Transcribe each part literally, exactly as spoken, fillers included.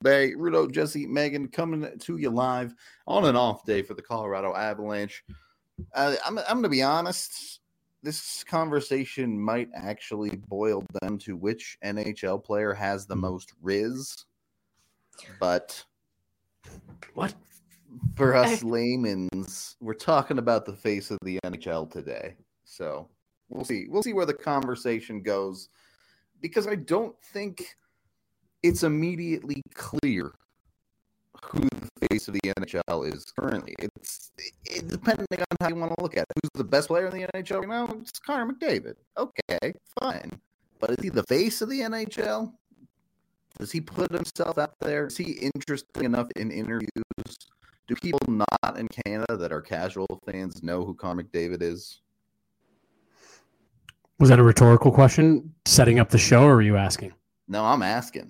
Bay, Rudo, Jesse, Megan, coming to you live on an off day for the Colorado Avalanche. Uh, I'm, I'm going to be honest. This conversation might actually boil down to which N H L player has the most Riz. But what? For us laymen's, we're talking about the face of the N H L today. So we'll see. We'll see where the conversation goes. Because I don't think it's immediately clear who the face of the N H L is currently. It's it, depending on how you want to look at it. Who's the best player in the N H L right now? It's Connor McDavid. Okay, fine. But is he the face of the N H L? Does he put himself out there? Is he interesting enough in interviews? Do people not in Canada that are casual fans know who Connor McDavid is? Was that a rhetorical question, setting up the show, or were you asking? No, I'm asking.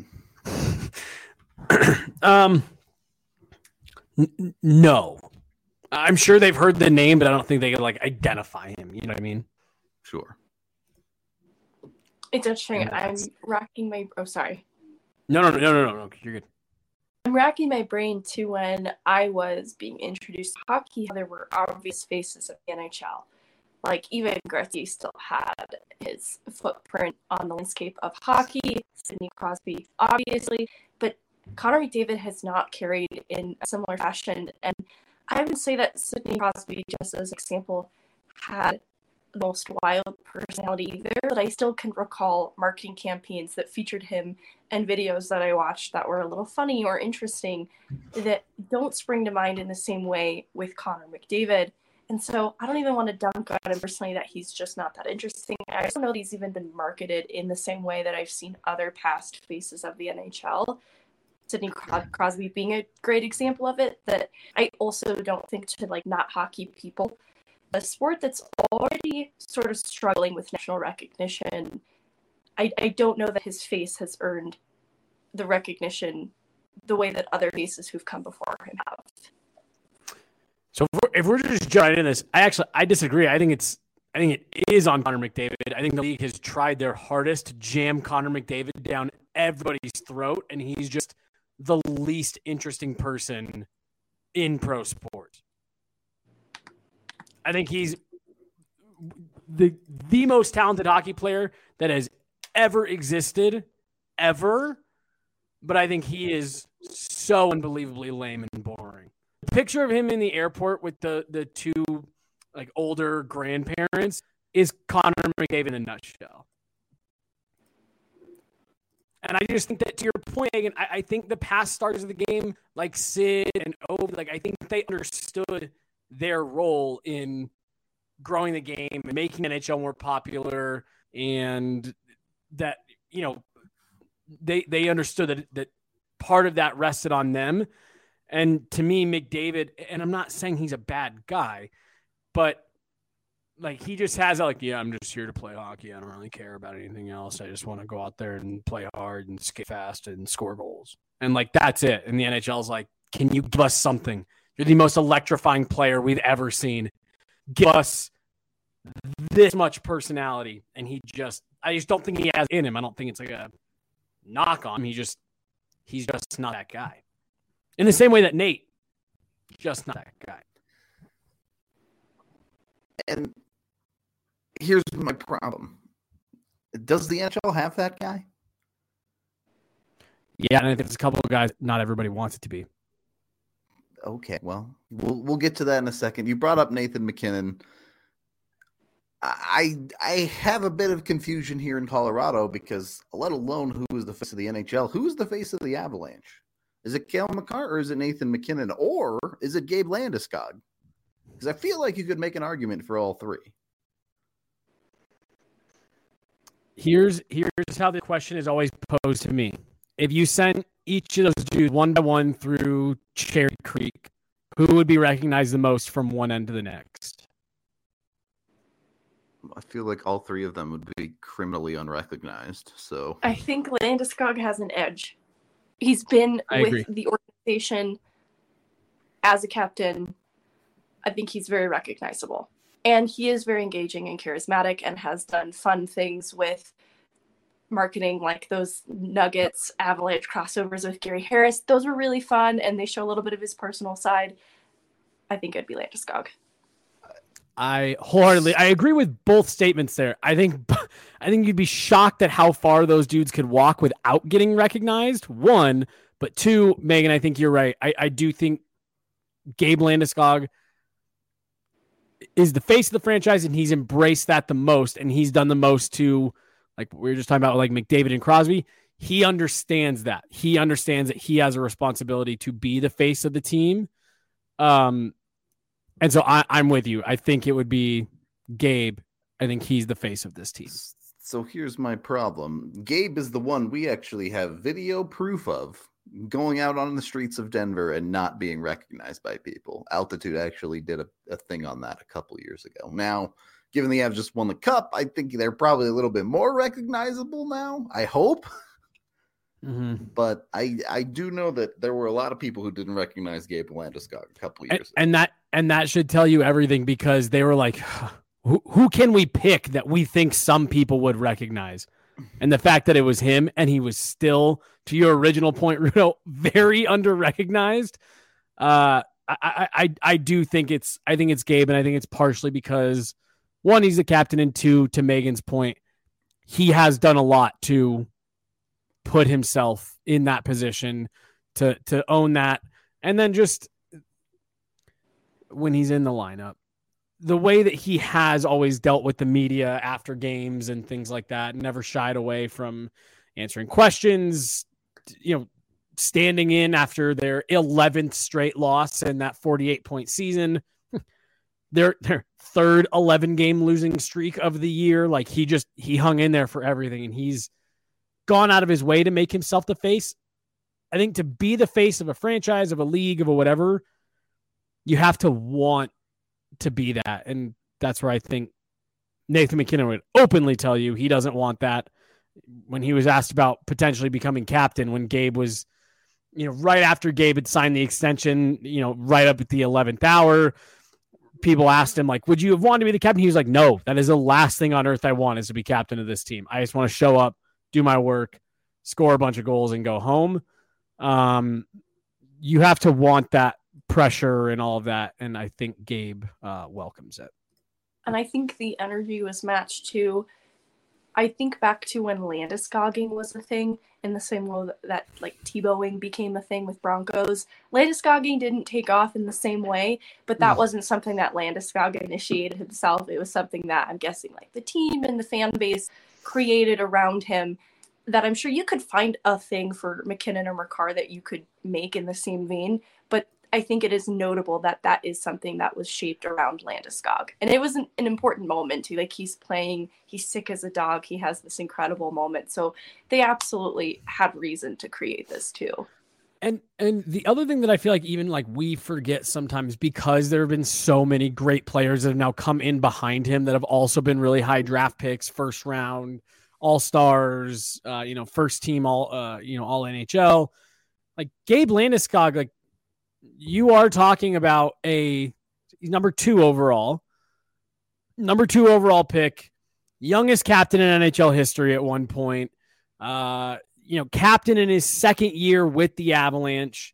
um, n- no. I'm sure they've heard the name, but I don't think they can like identify him. You know what I mean? Sure. It's interesting. I'm racking my. Oh, sorry. No, no, no, no, no, no. You're good. I'm racking my brain to when I was being introduced to hockey. There were obvious faces of the N H L. Like, even Gretzky still had his footprint on the landscape of hockey. Sidney Crosby, obviously. But Connor McDavid has not carried in a similar fashion. And I would say that Sidney Crosby, just as an example, had the most wild personality there. But I still can recall marketing campaigns that featured him and videos that I watched that were a little funny or interesting that don't spring to mind in the same way with Connor McDavid. And so I don't even want to dunk on him personally that he's just not that interesting. I also know that he's even been marketed in the same way that I've seen other past faces of the N H L. Sidney Crosby being a great example of it, that I also don't think to like not hockey people. A sport that's already sort of struggling with national recognition, I, I don't know that his face has earned the recognition the way that other faces who've come before him have. So if we're, if we're just jumping into this, I actually I disagree. I think it's I think it is on Connor McDavid. I think the league has tried their hardest to jam Connor McDavid down everybody's throat, and he's just the least interesting person in pro sports. I think he's the the most talented hockey player that has ever existed, ever. But I think he is so unbelievably lame and boring. The picture of him in the airport with the, the two like older grandparents is Connor McDavid in a nutshell. And I just think that, to your point, Megan, I, I think the past stars of the game, like Sid and Ovi, like I think they understood their role in growing the game and making N H L more popular, and that, you know, they they understood that that part of that rested on them. And to me, McDavid, and I'm not saying he's a bad guy, but like he just has like, yeah, I'm just here to play hockey. I don't really care about anything else. I just want to go out there and play hard and skate fast and score goals. And like, that's it. And the N H L is like, can you give us something? You're the most electrifying player we've ever seen. Give us this much personality. And he just, I just don't think he has in him. I don't think it's like a knock on him. He just, he's just not that guy. In the same way that Nate, just not that guy. And here's my problem. Does the N H L have that guy? Yeah, and I think there's a couple of guys not everybody wants it to be. Okay, well, we'll we'll get to that in a second. You brought up Nathan MacKinnon. I I have a bit of confusion here in Colorado because, let alone who is the face of the N H L, who is the face of the Avalanche? Is it Cale Makar or is it Nathan MacKinnon, or is it Gabe Landeskog? Because I feel like you could make an argument for all three. Here's here's how the question is always posed to me. If you sent each of those dudes one by one through Cherry Creek, who would be recognized the most from one end to the next? I feel like all three of them would be criminally unrecognized. So I think Landeskog has an edge. He's been I with agree. the organization as a captain. I think he's very recognizable. And he is very engaging and charismatic and has done fun things with marketing, like those Nuggets Avalanche crossovers with Gary Harris. Those were really fun, and they show a little bit of his personal side. I think it'd be Landeskog. I wholeheartedly, I agree with both statements there. I think, I think you'd be shocked at how far those dudes could walk without getting recognized. One, but two, Megan, I think you're right. I, I do think Gabe Landeskog is the face of the franchise, and he's embraced that the most, and he's done the most to, like we were just talking about, like McDavid and Crosby. He understands that. He understands that he has a responsibility to be the face of the team. Um, and so I, I'm with you. I think it would be Gabe. I think he's the face of this team. So here's my problem. Gabe is the one we actually have video proof of going out on the streets of Denver and not being recognized by people. Altitude actually did a, a thing on that a couple years ago. Now, given the Avs just won the cup, I think they're probably a little bit more recognizable now. I hope. Mm-hmm. But I I do know that there were a lot of people who didn't recognize Gabe Landeskog a couple years and, ago. And that and that should tell you everything, because they were like, who, who can we pick that we think some people would recognize? And the fact that it was him, and he was still, to your original point, Rudo, very under-recognized. Uh, I, I, I, I do think it's, I think it's Gabe, and I think it's partially because, one, he's the captain, and two, to Megan's point, he has done a lot to put himself in that position to, to own that. And then just when he's in the lineup, the way that he has always dealt with the media after games and things like that, never shied away from answering questions, you know, standing in after their eleventh straight loss in that forty-eight point season, their, their third eleven game losing streak of the year. Like he just, he hung in there for everything, and he's gone out of his way to make himself the face. I think to be the face of a franchise, of a league, of a whatever, you have to want to be that. And that's where I think Nathan MacKinnon would openly tell you he doesn't want that. When he was asked about potentially becoming captain, when Gabe was, you know, right after Gabe had signed the extension, you know, right up at the eleventh hour, people asked him, like, would you have wanted to be the captain? He was like, no, that is the last thing on earth I want, is to be captain of this team. I just want to show up, do my work, score a bunch of goals, and go home. Um, you have to want that pressure and all of that, and I think Gabe uh, welcomes it. And I think the energy was matched too. I think back to when Landeskoging was a thing, in the same way that, that like Tebowing became a thing with Broncos. Landeskoging didn't take off in the same way, but that mm. wasn't something that Landeskog initiated himself. It was something that I'm guessing like the team and the fan base created around him, that I'm sure you could find a thing for MacKinnon or Makar that you could make in the same vein. But I think it is notable that that is something that was shaped around Landeskog. And it was an, an important moment too. Like, he's playing, he's sick as a dog. He has this incredible moment. So they absolutely had reason to create this too. And and the other thing that I feel like even like we forget sometimes, because there have been so many great players that have now come in behind him that have also been really high draft picks, first round, all-stars, uh, you know, first team, all, uh, you know, all N H L. Like Gabe Landeskog, like, you are talking about a he's number two overall, number two overall pick, youngest captain in N H L history at one point, uh, you know, captain in his second year with the Avalanche.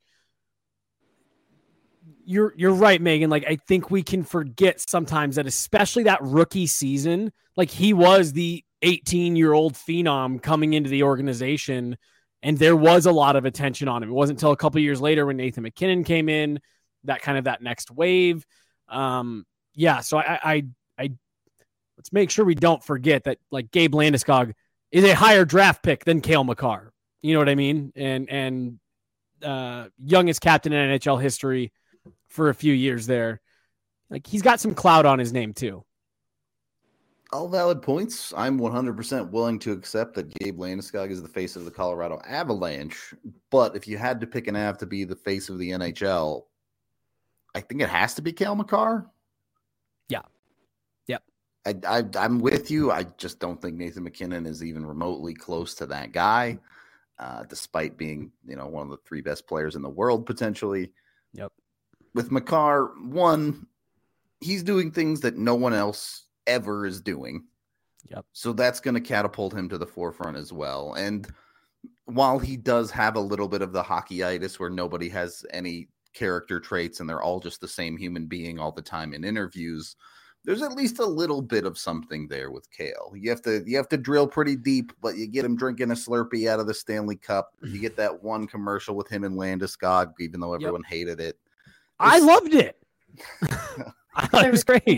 You're, you're right, Megan. Like, I think we can forget sometimes that, especially that rookie season, like he was the eighteen year old phenom coming into the organization, and there was a lot of attention on him. It wasn't until a couple of years later when Nathan MacKinnon came in, that kind of that next wave. Um, yeah. So I, I, I, let's make sure we don't forget that, like, Gabe Landeskog is a higher draft pick than Cale Makar. You know what I mean? And, and, uh, youngest captain in N H L history for a few years there. Like, he's got some clout on his name too. All valid points. I'm one hundred percent willing to accept that Gabe Landeskog is the face of the Colorado Avalanche. But if you had to pick an Av to be the face of the N H L, I think it has to be Cale Makar. Yeah. Yep. I, I, I'm with you. I just don't think Nathan MacKinnon is even remotely close to that guy, uh, despite being, you know, one of the three best players in the world potentially. Yep. With Makar, one, he's doing things that no one else ever is doing. Yep. So that's going to catapult him to the forefront as well. And while he does have a little bit of the hockeyitis where nobody has any character traits and they're all just the same human being all the time in interviews, there's at least a little bit of something there with Cale. You have to you have to drill pretty deep, but you get him drinking a Slurpee out of the Stanley Cup. You get that one commercial with him and Landeskog, even though everyone yep. hated it. It's... I loved it. I thought it was great.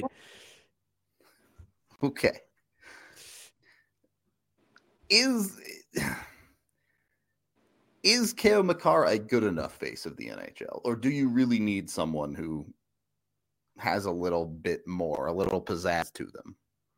Okay. Is is Cale Makar a good enough face of the N H L, or do you really need someone who has a little bit more, a little pizzazz to them?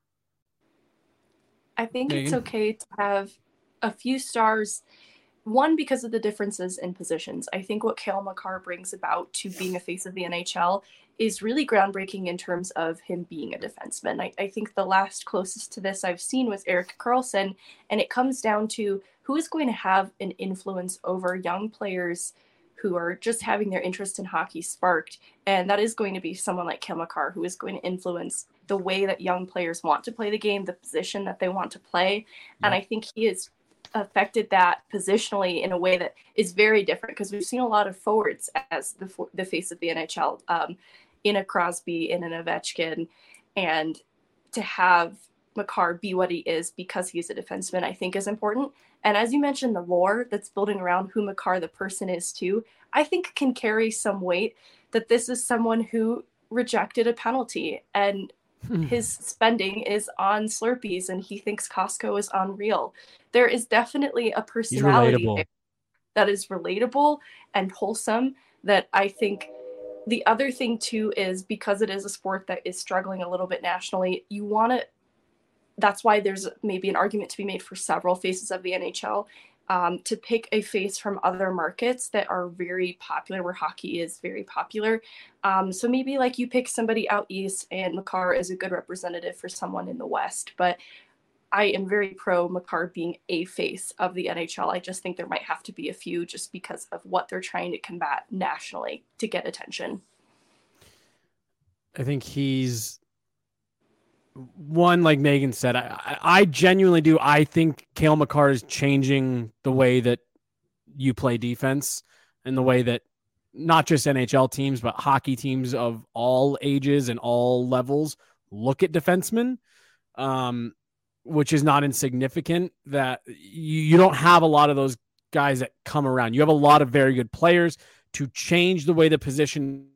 I think it's okay to have a few stars. One, because of the differences in positions. I think what Cale Makar brings about to being a face of the N H L is really groundbreaking in terms of him being a defenseman. I, I think the last closest to this I've seen was Erik Karlsson, and it comes down to who is going to have an influence over young players who are just having their interest in hockey sparked. And that is going to be someone like Cale Makar, who is going to influence the way that young players want to play the game, the position that they want to play. Yeah. And I think he is affected that positionally in a way that is very different, because we've seen a lot of forwards as the the face of the N H L, um, in a Crosby, in an Ovechkin, and to have Makar be what he is because he's a defenseman, I think is important. And as you mentioned, the lore that's building around who Makar the person is too, I think can carry some weight, that this is someone who rejected a penalty and his spending is on Slurpees and he thinks Costco is unreal. There is definitely a personality there that is relatable and wholesome, that I think the other thing too is, because it is a sport that is struggling a little bit nationally, you want to, that's why there's maybe an argument to be made for several faces of the N H L, um, to pick a face from other markets that are very popular, where hockey is very popular. Um, so maybe like you pick somebody out east, and Makar is a good representative for someone in the west. But I am very pro Makar being a face of the N H L. I just think there might have to be a few, just because of what they're trying to combat nationally to get attention. I think he's one, like Megan said, I, I genuinely do. I think Cale Makar is changing the way that you play defense, and the way that not just N H L teams, but hockey teams of all ages and all levels look at defensemen, um, which is not insignificant. That you, you don't have a lot of those guys that come around. You have a lot of very good players. To change the way the position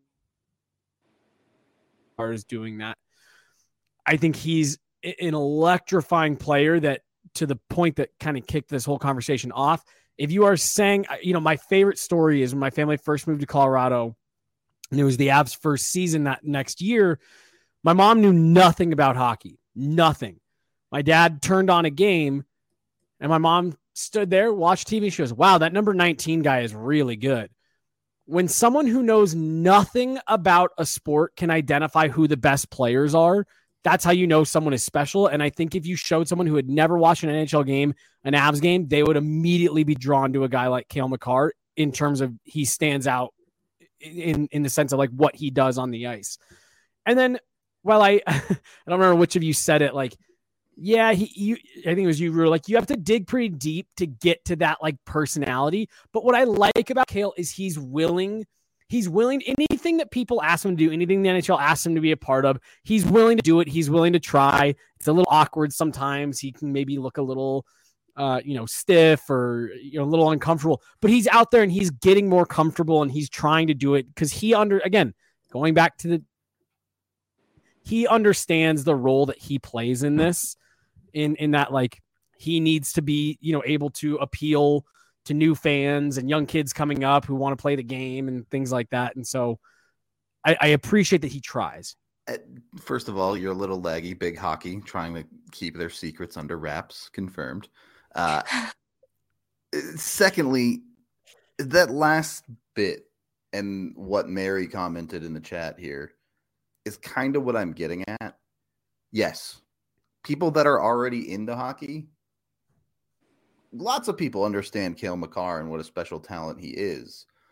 is doing that, I think he's an electrifying player, that to the point that kind of kicked this whole conversation off. If you are saying, you know, my favorite story is when my family first moved to Colorado, and it was the Avs' first season that next year. My mom knew nothing about hockey, nothing. My dad turned on a game, and my mom stood there, watched T V. She goes, wow, that number nineteen guy is really good. When someone who knows nothing about a sport can identify who the best players are, that's how you know someone is special. And I think if you showed someone who had never watched an N H L game, an Avs game, they would immediately be drawn to a guy like Cale Makar, in terms of he stands out in, in the sense of like what he does on the ice. And then, well, I, I don't remember which of you said it, like, yeah, he, you, I think it was you, Rue, like you have to dig pretty deep to get to that like personality. But what I like about Cale is he's willing He's willing, anything that people ask him to do, anything the N H L asks him to be a part of, he's willing to do it. He's willing to try. It's a little awkward sometimes. He can maybe look a little, uh, you know, stiff or, you know, a little uncomfortable. But he's out there and he's getting more comfortable, and he's trying to do it because he under, again, going back to the, he understands the role that he plays in this, in in that like he needs to be, you know, able to appeal to new fans and young kids coming up who want to play the game and things like that. And so I, I appreciate that he tries. First of all, you're a little laggy, big hockey, trying to keep their secrets under wraps, confirmed. Uh, secondly, that last bit and what Mary commented in the chat here is kind of what I'm getting at. Yes, people that are already into hockey, lots of people understand Cale Makar and what a special talent he is.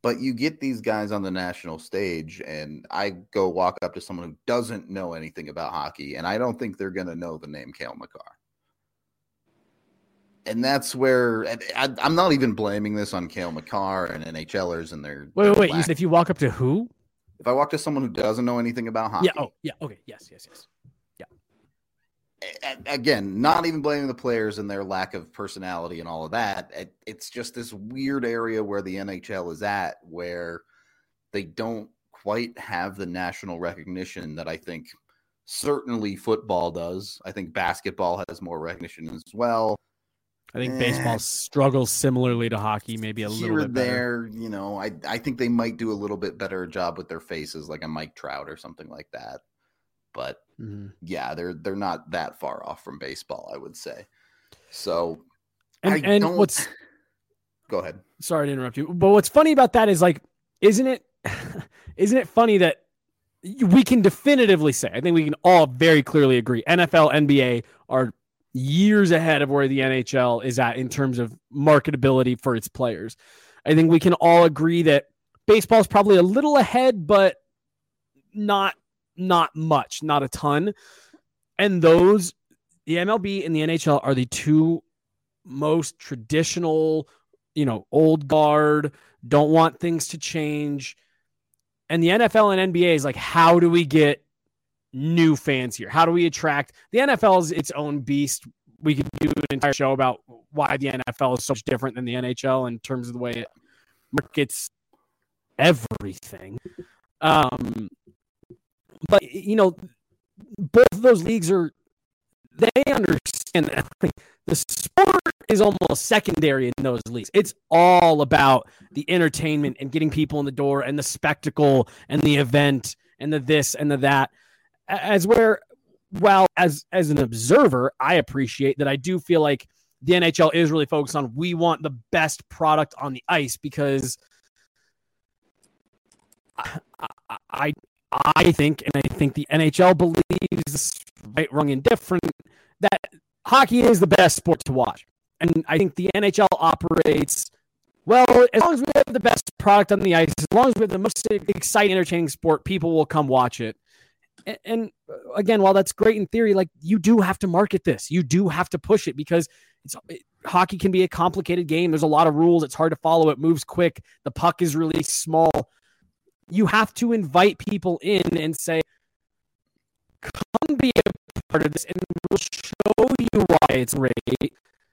But you get these guys on the national stage, and I go walk up to someone who doesn't know anything about hockey, and I don't think they're going to know the name Cale Makar. And that's where I, I'm not even blaming this on Cale Makar and NHLers and their. Wait, their wait, wait. lack. You said if you walk up to who? If I walk to someone who doesn't know anything about hockey. Yeah. Oh, yeah. Okay. Yes, yes, yes. Again, not even blaming the players and their lack of personality and all of that. It's just this weird area where the N H L is at, where they don't quite have the national recognition that I think certainly football does. I think basketball has more recognition as well. I think baseball struggles similarly to hockey, maybe a Here little and bit better. there, you know, I, I think they might do a little bit better job with their faces, like a Mike Trout or something like that. But mm-hmm. yeah, they're they're not that far off from baseball, I would say. So, and, I and don't... what's go ahead. Sorry to interrupt you, but what's funny about that is like, isn't it? Isn't it funny that we can definitively say? I think we can all very clearly agree. N F L, N B A are years ahead of where the N H L is at in terms of marketability for its players. I think we can all agree that baseball is probably a little ahead, but not. Not much, not a ton. And those, the M L B and the N H L are the two most traditional, you know, old guard, don't want things to change. And the N F L and N B A is like, how do we get new fans here? How do we attract? The N F L is its own beast. We could do an entire show about why the N F L is so much different than the N H L in terms of the way it markets everything. Um, But, you know, both of those leagues are, they understand that the sport is almost secondary in those leagues. It's all about the entertainment and getting people in the door and the spectacle and the event and the this and the that. As where, well, as, as an observer, I appreciate that. I do feel like the N H L is really focused on, we want the best product on the ice because I, I I think, and I think the N H L believes, right, wrong, indifferent, that hockey is the best sport to watch. And I think the N H L operates, well, as long as we have the best product on the ice, as long as we have the most exciting, entertaining sport, people will come watch it. And, and again, while that's great in theory, like, you do have to market this. You do have to push it because it's it, hockey can be a complicated game. There's a lot of rules. It's hard to follow. It moves quick. The puck is really small. You have to invite people in and say, come be a part of this, and we'll show you why it's great.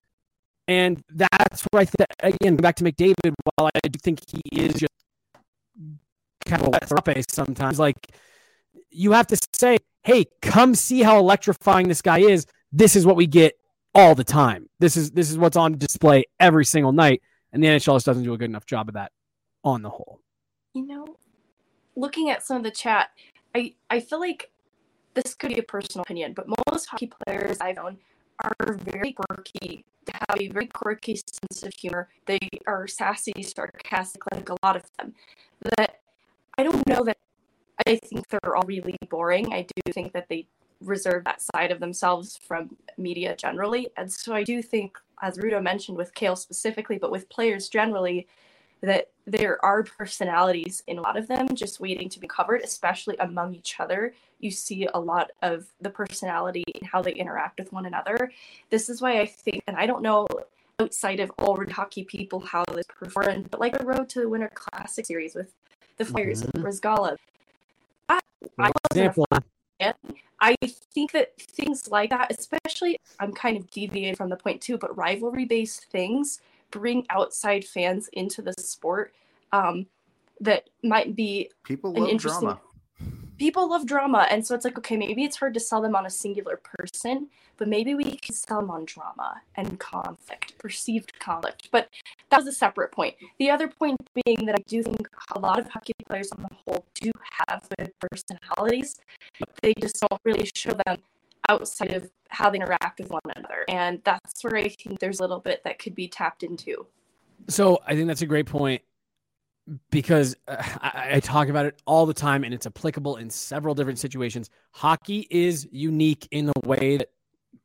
And that's where I think, again, back to McDavid, while I do think he is just kind of a wet sometimes, like, you have to say, hey, come see how electrifying this guy is. This is what we get all the time. This is this is what's on display every single night. And the N H L just doesn't do a good enough job of that on the whole. You know, looking at some of the chat, I, I feel like this could be a personal opinion, but most hockey players I've known are very quirky. They have a very quirky sense of humor. They are sassy, sarcastic, like a lot of them. That I don't know that I think they're all really boring. I do think that they reserve that side of themselves from media generally. And so I do think, as Rudo mentioned with Cale specifically, but with players generally, that there are personalities in a lot of them just waiting to be covered, especially among each other. You see a lot of the personality and how they interact with one another. This is why I think, and I don't know outside of all hockey people how this performed, but like the Road to the Winter Classic series with the Flyers mm-hmm. and Brizgalov. I, I wasn't a fan. I think that things like that, especially, I'm kind of deviating from the point too, but rivalry-based things bring outside fans into the sport um, that might be people an love interesting. Drama. People love drama, and so it's like, okay, maybe it's hard to sell them on a singular person, but maybe we can sell them on drama and conflict, perceived conflict. But that was a separate point. The other point being that I do think a lot of hockey players on the whole do have good personalities, but they just don't really show them outside of how they interact with one another. And that's where I think there's a little bit that could be tapped into. So I think that's a great point, because uh, I, I talk about it all the time, and it's applicable in several different situations. Hockey is unique in the way that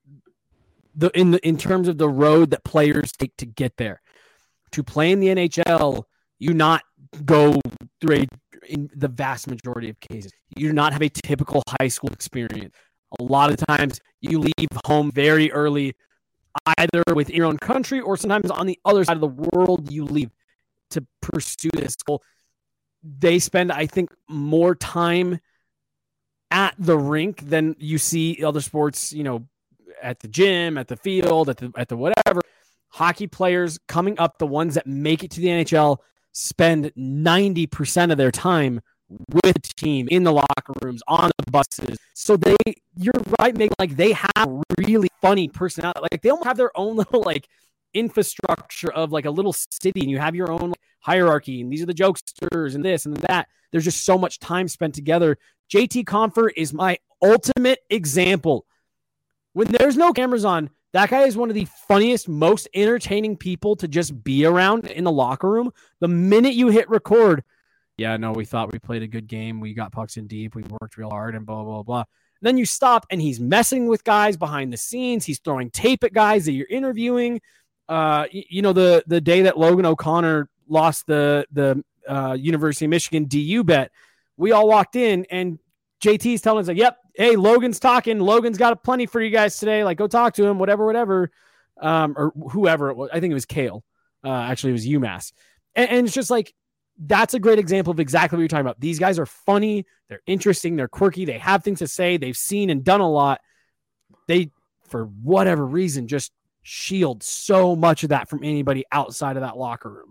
the in the in terms of the road that players take to get there. To play in the N H L, you not go through a, in the vast majority of cases, you do not have a typical high school experience. A lot of times you leave home very early, either within your own country or sometimes on the other side of the world you leave to pursue this goal. They spend, I think, more time at the rink than you see other sports, you know, at the gym, at the field, at the at the whatever. Hockey players coming up, the ones that make it to the N H L, spend ninety percent of their time with the team in the locker rooms, on the buses. So they, you're right, Megan, like they have really funny personality. Like they almost have their own little like infrastructure of like a little city, and you have your own like, hierarchy, and these are the jokesters and this and that. There's just so much time spent together. J T Compher is my ultimate example. When there's no cameras on, that guy is one of the funniest, most entertaining people to just be around in the locker room. The minute you hit record, yeah, no, we thought we played a good game. We got pucks in deep. We worked real hard and blah, blah, blah. And then you stop and he's messing with guys behind the scenes. He's throwing tape at guys that you're interviewing. Uh, you, you know, the the day that Logan O'Connor lost the, the uh, University of Michigan D U bet, we all walked in and J T's telling us like, yep, hey, Logan's talking. Logan's got a plenty for you guys today. Like, go talk to him, whatever, whatever. Um, or whoever it was. I think it was Kale. Uh, actually, it was UMass. And, and it's just like, that's a great example of exactly what you're talking about. These guys are funny. They're interesting. They're quirky. They have things to say. They've seen and done a lot. They, for whatever reason, just shield so much of that from anybody outside of that locker room.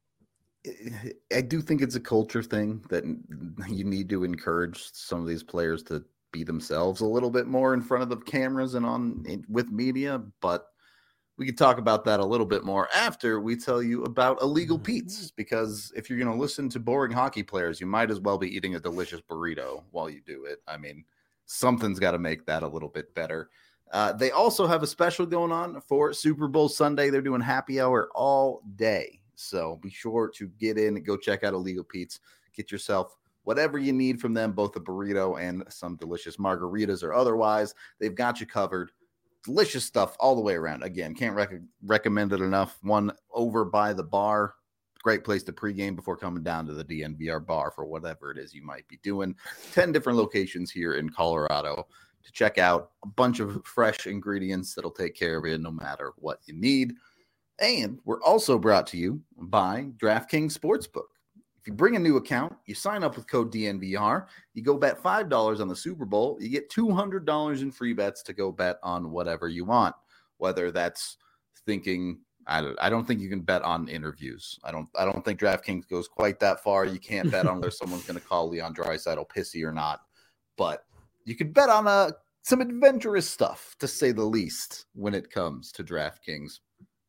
I do think it's a culture thing that you need to encourage some of these players to be themselves a little bit more in front of the cameras and on with media, but we could talk about that a little bit more after we tell you about Illegal Pete's, because if you're going to listen to boring hockey players, you might as well be eating a delicious burrito while you do it. I mean, something's got to make that a little bit better. Uh, they also have a special going on for Super Bowl Sunday. They're doing happy hour all day. So be sure to get in and go check out Illegal Pete's. Get yourself whatever you need from them, both a burrito and some delicious margaritas or otherwise. They've got you covered. Delicious stuff all the way around. Again, can't rec- recommend it enough. One over by the bar. Great place to pregame before coming down to the D N V R bar for whatever it is you might be doing. ten different locations here in Colorado to check out. A bunch of fresh ingredients that'll take care of you no matter what you need. And we're also brought to you by DraftKings Sportsbook. If you bring a new account, you sign up with code D N V R, you go bet five dollars on the Super Bowl, you get two hundred dollars in free bets to go bet on whatever you want. Whether that's thinking, I don't, I don't think you can bet on interviews. I don't I don't think DraftKings goes quite that far. You can't bet on whether someone's going to call Leon Draisaitl pissy or not. But you can bet on uh, some adventurous stuff, to say the least, when it comes to DraftKings.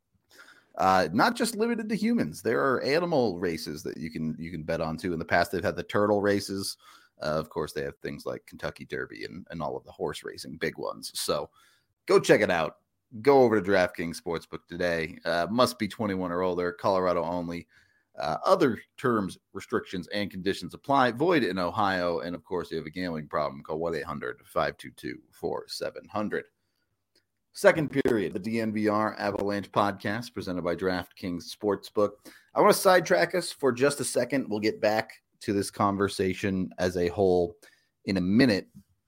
Uh, not just limited to humans. There are animal races that you can you can bet on too. In the past, they've had the turtle races. Uh, of course, they have things like Kentucky Derby and, and all of the horse racing, big ones. So go check it out. Go over to DraftKings Sportsbook today. Uh, must be twenty-one or older. Colorado only. Uh, other terms, restrictions, and conditions apply. Void in Ohio. And of course, if you have a gambling problem, call one eight hundred five two two four seven zero zero. Second period, the D N V R Avalanche podcast presented by DraftKings Sportsbook. I want to sidetrack us for just a second. We'll get back to this conversation as a whole in a minute.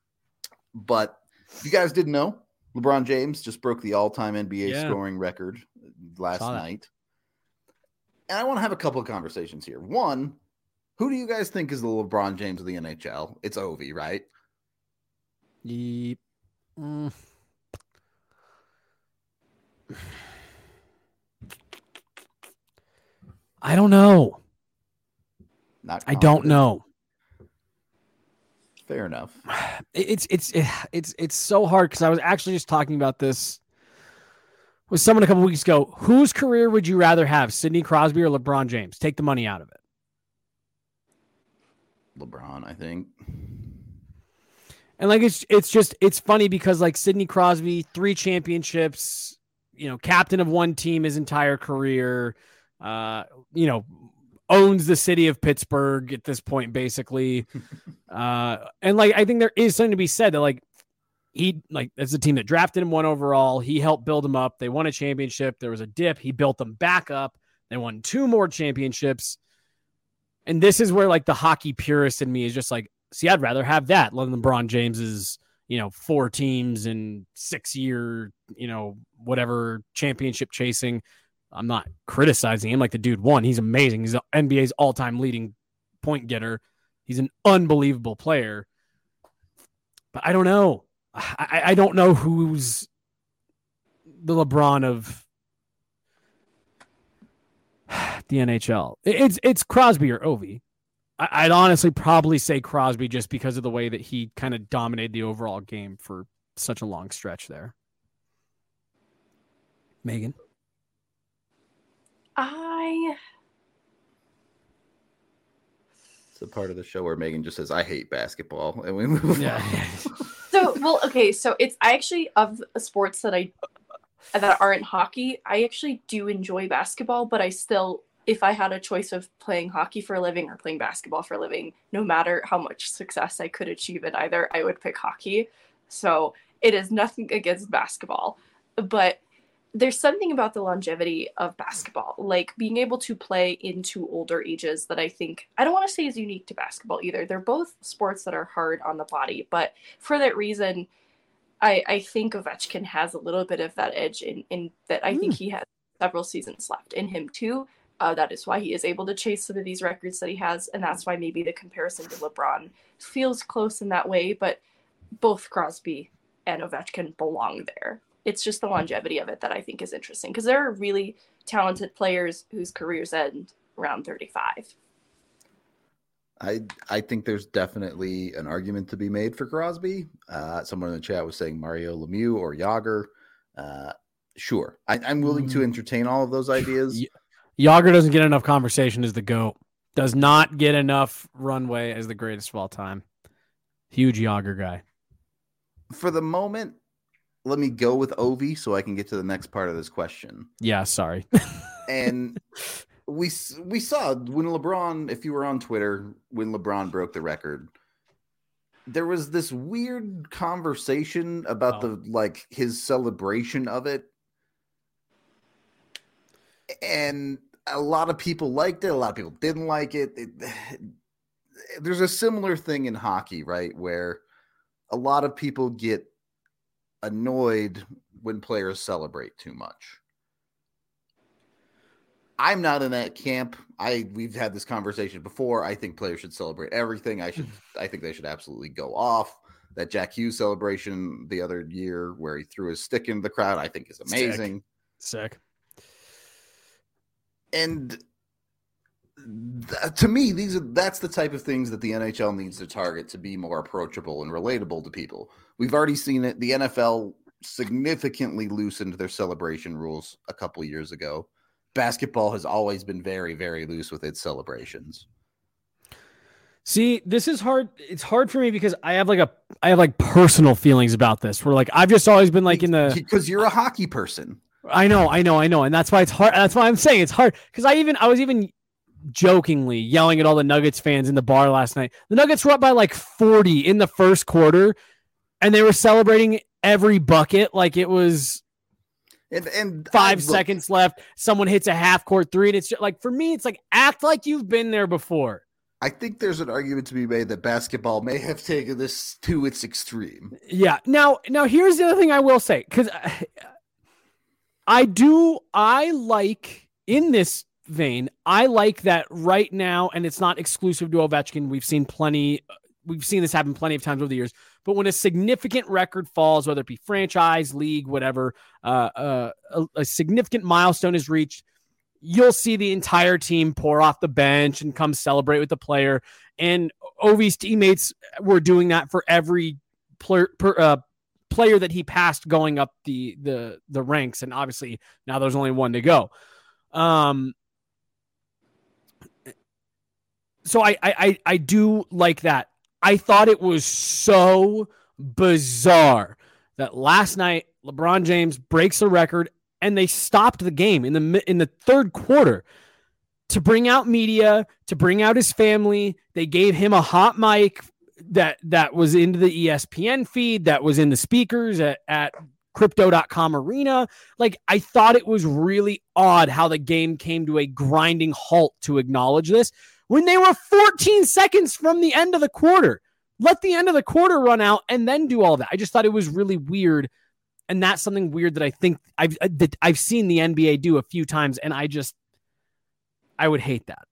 But if you guys didn't know, LeBron James just broke the all-time N B A yeah. scoring record last night. And I want to have a couple of conversations here. One, who do you guys think is the LeBron James of the N H L? It's Ovi, right? Yep. Mm. I don't know. Not I don't know. Fair enough. It's it's it's it's so hard because I was actually just talking about this with someone a couple weeks ago. Whose career would you rather have, Sidney Crosby or LeBron James? Take the money out of it. LeBron, I think. And like it's it's just it's funny because like Sidney Crosby, three championships. You know, captain of one team his entire career, uh, you know, owns the city of Pittsburgh at this point, basically. uh, and like, I think there is something to be said that like, he like, that's a team that drafted him one overall. He helped build them up. They won a championship. There was a dip. He built them back up. They won two more championships. And this is where like the hockey purist in me is just like, see, I'd rather have that than LeBron James's, you know, four teams and six year, you know, whatever championship chasing. I'm not criticizing him. Like, the dude won. He's amazing. He's the N B A's all-time leading point getter. He's an unbelievable player. But I don't know. I, I don't know who's the LeBron of the N H L. It's it's Crosby or Ovi. I'd honestly probably say Crosby just because of the way that he kind of dominated the overall game for such a long stretch there. Megan? I... It's the part of the show where Megan just says, I hate basketball. And we move yeah. on. So, well, okay, so it's I actually, of sports that I that aren't hockey, I actually do enjoy basketball, but I still, if I had a choice of playing hockey for a living or playing basketball for a living, no matter how much success I could achieve at either, I would pick hockey. So it is nothing against basketball, but there's something about the longevity of basketball, like being able to play into older ages that I think, I don't want to say is unique to basketball either. They're both sports that are hard on the body, but for that reason, I, I think Ovechkin has a little bit of that edge in, in that I mm. think he has several seasons left in him too. Uh, that is why he is able to chase some of these records that he has, and that's why maybe the comparison to LeBron feels close in that way, but both Crosby and Ovechkin belong there. It's just the longevity of it that I think is interesting, because there are really talented players whose careers end around thirty-five. I I think there's definitely an argument to be made for Crosby. Uh, someone in the chat was saying Mario Lemieux or Jágr. Uh, sure, I, I'm willing to entertain all of those ideas. Jágr doesn't get enough conversation as the GOAT. Does not get enough runway as the greatest of all time. Huge Jágr guy. For the moment, let me go with Ovi so I can get to the next part of this question. Yeah, sorry. And we we saw when LeBron, if you were on Twitter, when LeBron broke the record, there was this weird conversation about oh. the like his celebration of it. And a lot of people liked it. A lot of people didn't like it. it. There's a similar thing in hockey, right? Where a lot of people get annoyed when players celebrate too much. I'm not in that camp. I we've had this conversation before. I think players should celebrate everything. I should. I think they should absolutely go off. That Jack Hughes celebration the other year where he threw his stick into the crowd, I think is amazing. Sick. Sick. And th- to me, these are that's the type of things that the N H L needs to target to be more approachable and relatable to people. We've already seen it. The N F L significantly loosened their celebration rules a couple years ago. Basketball has always been very, very loose with its celebrations. See, this is hard. It's hard for me because I have like a, I have like personal feelings about this. Where like I've just always been like in the because you're a hockey person. I know, I know, I know, and that's why it's hard. That's why I'm saying it's hard because I even I was even jokingly yelling at all the Nuggets fans in the bar last night. The Nuggets were up by like forty in the first quarter, and they were celebrating every bucket like it was. And, and five I, seconds left. Someone hits a half court three, and it's just, like for me, it's like act like you've been there before. I think there's an argument to be made that basketball may have taken this to its extreme. Yeah. Now, now here's the other thing I will say because I, I do. I like in this vein. I like that right now, and it's not exclusive to Ovechkin. We've seen plenty. We've seen this happen plenty of times over the years. But when a significant record falls, whether it be franchise, league, whatever, uh, uh, a, a significant milestone is reached, you'll see the entire team pour off the bench and come celebrate with the player. And Ovi's teammates were doing that for every player, per, uh, player that he passed going up the the the ranks. And obviously now there's only one to go. Um. So I I I, I do like that. I thought it was so bizarre that last night LeBron James breaks the record and they stopped the game in the in the third quarter to bring out media, to bring out his family. They gave him a hot mic that that was into the E S P N feed, that was in the speakers at, at crypto dot com arena. Like, I thought it was really odd how the game came to a grinding halt to acknowledge this. when they were fourteen seconds from the end of the quarter. Let the end of the quarter run out and then do all that. I just thought it was really weird. And that's something weird that I think I've, that I've seen the N B A do a few times. And I just, I would hate that.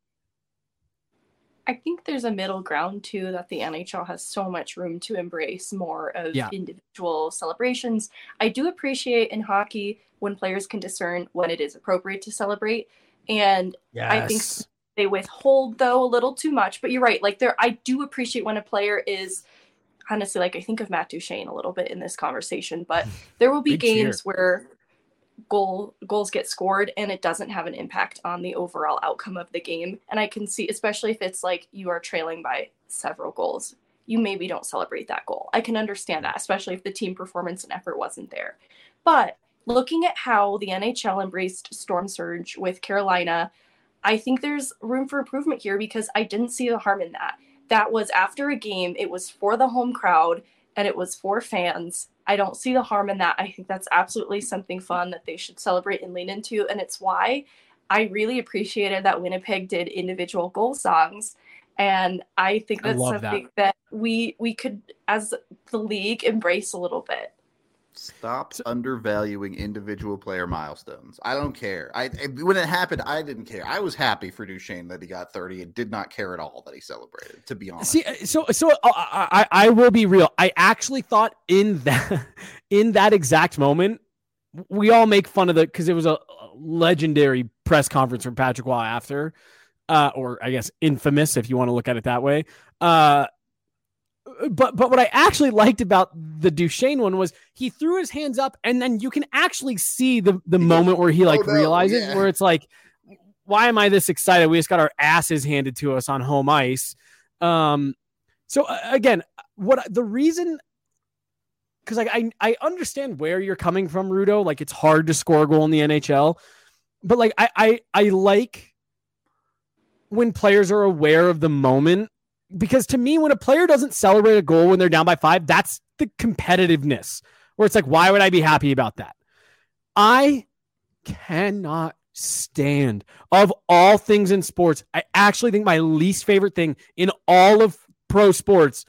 I think there's a middle ground too, that the N H L has so much room to embrace more of yeah. individual celebrations. I do appreciate in hockey when players can discern when it is appropriate to celebrate. And yes. I think they withhold though a little too much, but you're right. Like there, I do appreciate when a player is honestly, like I think of Matt Duchene a little bit in this conversation, but there will be games cheer. where goal goals get scored and it doesn't have an impact on the overall outcome of the game. And I can see, especially if it's like you are trailing by several goals, you maybe don't celebrate that goal. I can understand that, especially if the team performance and effort wasn't there. But looking at how the N H L embraced Storm Surge with Carolina, I think there's room for improvement here because I didn't see the harm in that. That was after a game. It was for the home crowd and it was for fans. I don't see the harm in that. I think that's absolutely something fun that they should celebrate and lean into. And it's why I really appreciated that Winnipeg did individual goal songs. And I think that's I something that. that we we could, as the league, embrace a little bit. Stop undervaluing individual player milestones. I don't care. I when it happened, I didn't care. I was happy for Duchene that he got thirty and did not care at all that he celebrated, to be honest. See, so so I, I I will be real. I actually thought in that in that exact moment, we all make fun of the because it was a legendary press conference from Patrick Waugh after, uh, or I guess infamous if you want to look at it that way. Uh, But but what I actually liked about the Duchene one was he threw his hands up and then you can actually see the, the moment where he like oh, no, realizes yeah. where it's like, why am I this excited? We just got our asses handed to us on home ice. Um, so uh, again, what the reason, because like I I understand where you're coming from, Rudo. Like it's hard to score a goal in the N H L, but like I I, I like when players are aware of the moment. Because to me, when a player doesn't celebrate a goal when they're down by five, that's the competitiveness where it's like, why would I be happy about that? I cannot stand, of all things in sports, I actually think my least favorite thing in all of pro sports,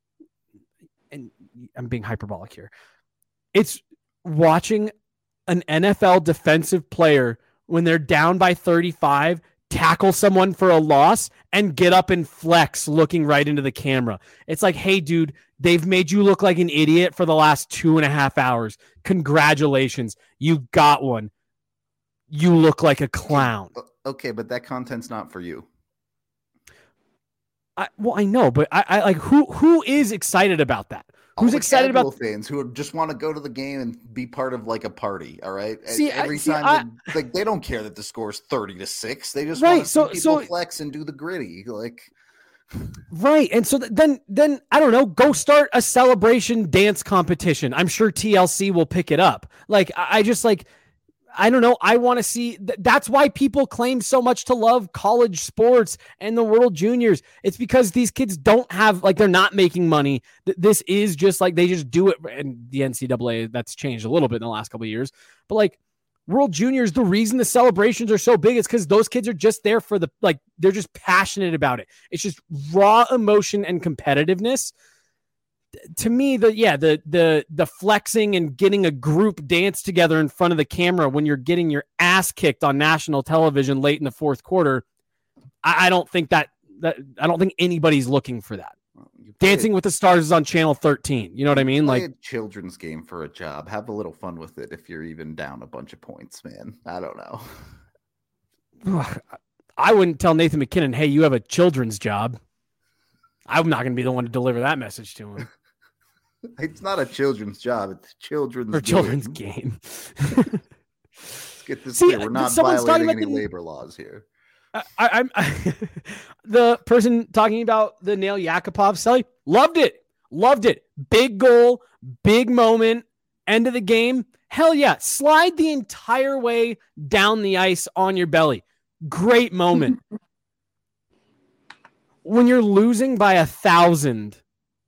and I'm being hyperbolic here, it's watching an N F L defensive player when they're down by thirty-five tackle someone for a loss and get up and flex looking right into the camera. It's like, hey, dude, they've made you look like an idiot for the last two and a half hours. Congratulations. You got one. You look like a clown. Okay, but that content's not for you. I, well, I know, but I, I like who who is excited about that? Who's excited about fans who just want to go to the game and be part of like a party? All right. See, every I, see, time, I, they, like they don't care that the score's thirty to six. They just right, want to so, see people so, flex and do the gritty. Like, right. And so then, then I don't know, go start a celebration dance competition. I'm sure T L C will pick it up. Like, I, I just like, I don't know. I want to see. Th- that's why people claim so much to love college sports and the World Juniors. It's because these kids don't have, like, they're not making money. Th- this is just like they just do it. And the N C double A, that's changed a little bit in the last couple of years. But like World Juniors, the reason the celebrations are so big is because those kids are just there for the, like, they're just passionate about it. It's just raw emotion and competitiveness. To me, the yeah, the the the flexing and getting a group dance together in front of the camera when you're getting your ass kicked on national television late in the fourth quarter, I, I don't think that that I don't think anybody's looking for that. Well, Dancing with the Stars is on channel thirteen. You know what I mean? Like a children's game for a job. Have a little fun with it if you're even down a bunch of points, man. I don't know. I wouldn't tell Nathan McKinnon, hey, you have a children's job. I'm not going to be the one to deliver that message to him. It's not a children's job. It's a children's or children's game. Let's get this clear. We're not violating any the, labor laws here. I, I'm I, the person talking about the Nail Yakupov celly. Loved it. Loved it. Big goal. Big moment. End of the game. Hell yeah. Slide the entire way down the ice on your belly. Great moment. When you're losing by a thousand,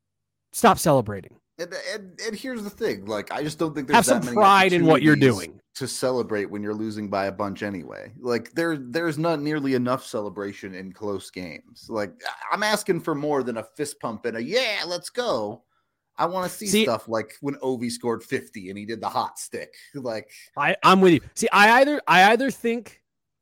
stop celebrating. And, and and here's the thing, like I just don't think there's have some that many pride in what you're doing. to celebrate when you're losing by a bunch anyway. Like there, there's not nearly enough celebration in close games. Like I'm asking for more than a fist pump and a yeah, let's go. I want to see, see stuff like when Ovi scored fifty and he did the hot stick. Like I, I'm with you. See, I either I either think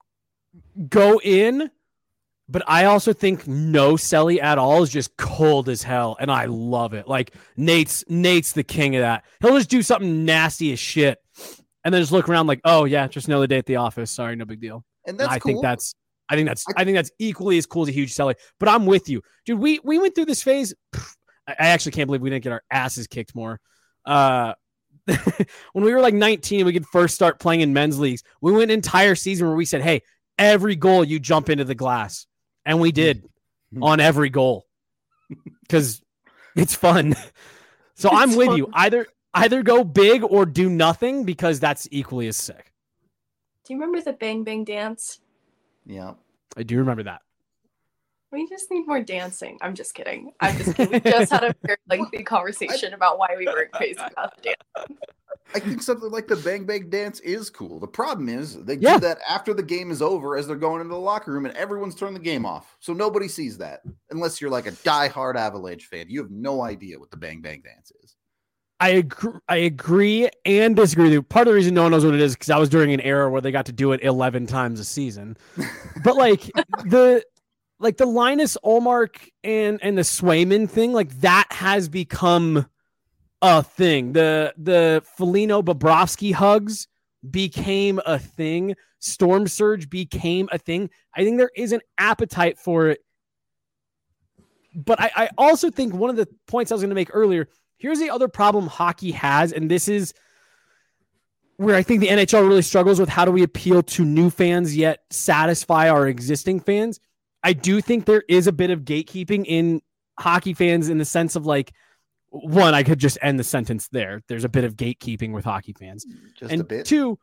go in, but I also think no Selly at all is just cold as hell, and I love it. Like Nate's Nate's the king of that. He'll just do something nasty as shit, and then just look around like, oh yeah, just another day at the office. Sorry, no big deal. And that's and I cool. think that's I think that's I, I think that's equally as cool as a huge Selly. But I'm with you, dude. We we went through this phase. I actually can't believe we didn't get our asses kicked more. Uh, when we were like nineteen, we could first start playing in men's leagues. We went an entire season where we said, hey, every goal you jump into the glass. And we did on every goal because it's fun. So it's I'm with fun. you. Either either go big or do nothing because that's equally as sick. Do you remember the Bang Bang dance? Yeah. I do remember that. We just need more dancing. I'm just kidding. I'm just kidding. We just had a very lengthy conversation about why we weren't crazy about the dance. I think something like the Bang Bang dance is cool. The problem is they yeah. do that after the game is over as they're going into the locker room and everyone's turned the game off. So nobody sees that unless you're like a diehard Avalanche fan. You have no idea what the Bang Bang dance is. I agree, I agree and disagree with you. Part of the reason no one knows what it is because I was during an era where they got to do it eleven times a season. But like the like the Linus Ullmark and and the Swayman thing, like that has become a thing. The the Foligno Bobrovsky hugs became a thing. Storm Surge became a thing. I think there is an appetite for it. But I, I also think one of the points I was going to make earlier, here's the other problem hockey has, and this is where I think the N H L really struggles with how do we appeal to new fans yet satisfy our existing fans. I do think there is a bit of gatekeeping in hockey fans in the sense of like, one, I could just end the sentence there. There's a bit of gatekeeping with hockey fans. Just and a bit. Two,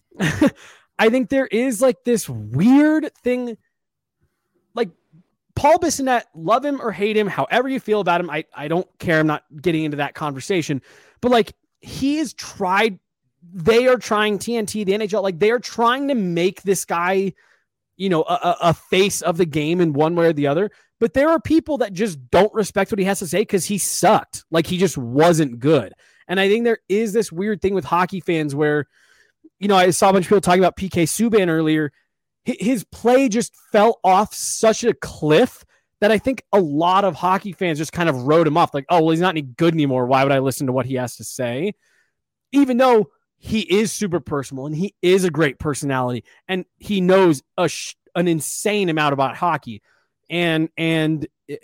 I think there is like this weird thing. Like Paul Bissonnette, love him or hate him, however you feel about him. I, I don't care. I'm not getting into that conversation. But like he has tried, they are trying T N T, the N H L, like they are trying to make this guy, you know, a, a face of the game in one way or the other. But there are people that just don't respect what he has to say because he sucked. Like he just wasn't good. And I think there is this weird thing with hockey fans where, you know, I saw a bunch of people talking about P K Subban earlier. His play just fell off such a cliff that I think a lot of hockey fans just kind of wrote him off. Like, oh, well, he's not any good anymore. Why would I listen to what he has to say? Even though he is super personal and he is a great personality and he knows a sh- an insane amount about hockey. And and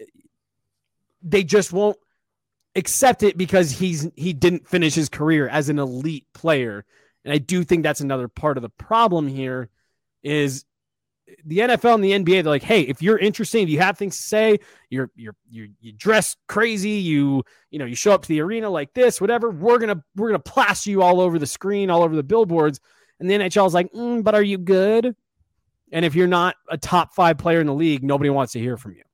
they just won't accept it because he's he didn't finish his career as an elite player. And I do think that's another part of the problem here is the N F L and the N B A. They're like, hey, if you're interesting, if you have things to say, you're you're you you dress crazy, you you know you show up to the arena like this, whatever. We're gonna we're gonna plaster you all over the screen, all over the billboards. And the N H L is like, mm, but are you good? And if you're not a top five player in the league, nobody wants to hear from you.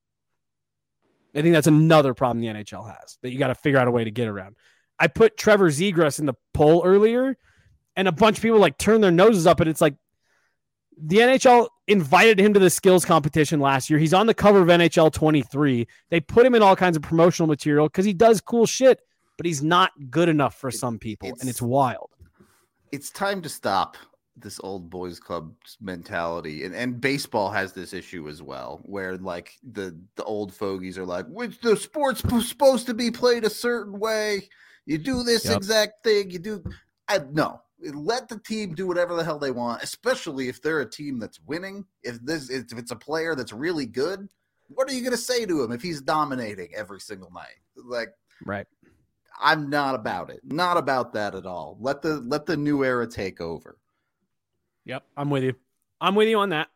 I think that's another problem the N H L has that you got to figure out a way to get around. I put Trevor Zegras in the poll earlier, and a bunch of people like turn their noses up, and it's like the N H L invited him to the skills competition last year. He's on the cover of N H L twenty-three. They put him in all kinds of promotional material because he does cool shit, but he's not good enough for some people, it's, and it's wild. It's time to stop this old boys club mentality, and and baseball has this issue as well, where like the the old fogies are like, which the sport's supposed to be played a certain way. You do this yep. exact thing. You do. I no. Let the team do whatever the hell they want, especially if they're a team that's winning. If this if it's a player that's really good, what are you going to say to him if he's dominating every single night? Like, right. I'm not about it. Not about that at all. Let the let the new era take over. Yep, I'm with you. I'm with you on that.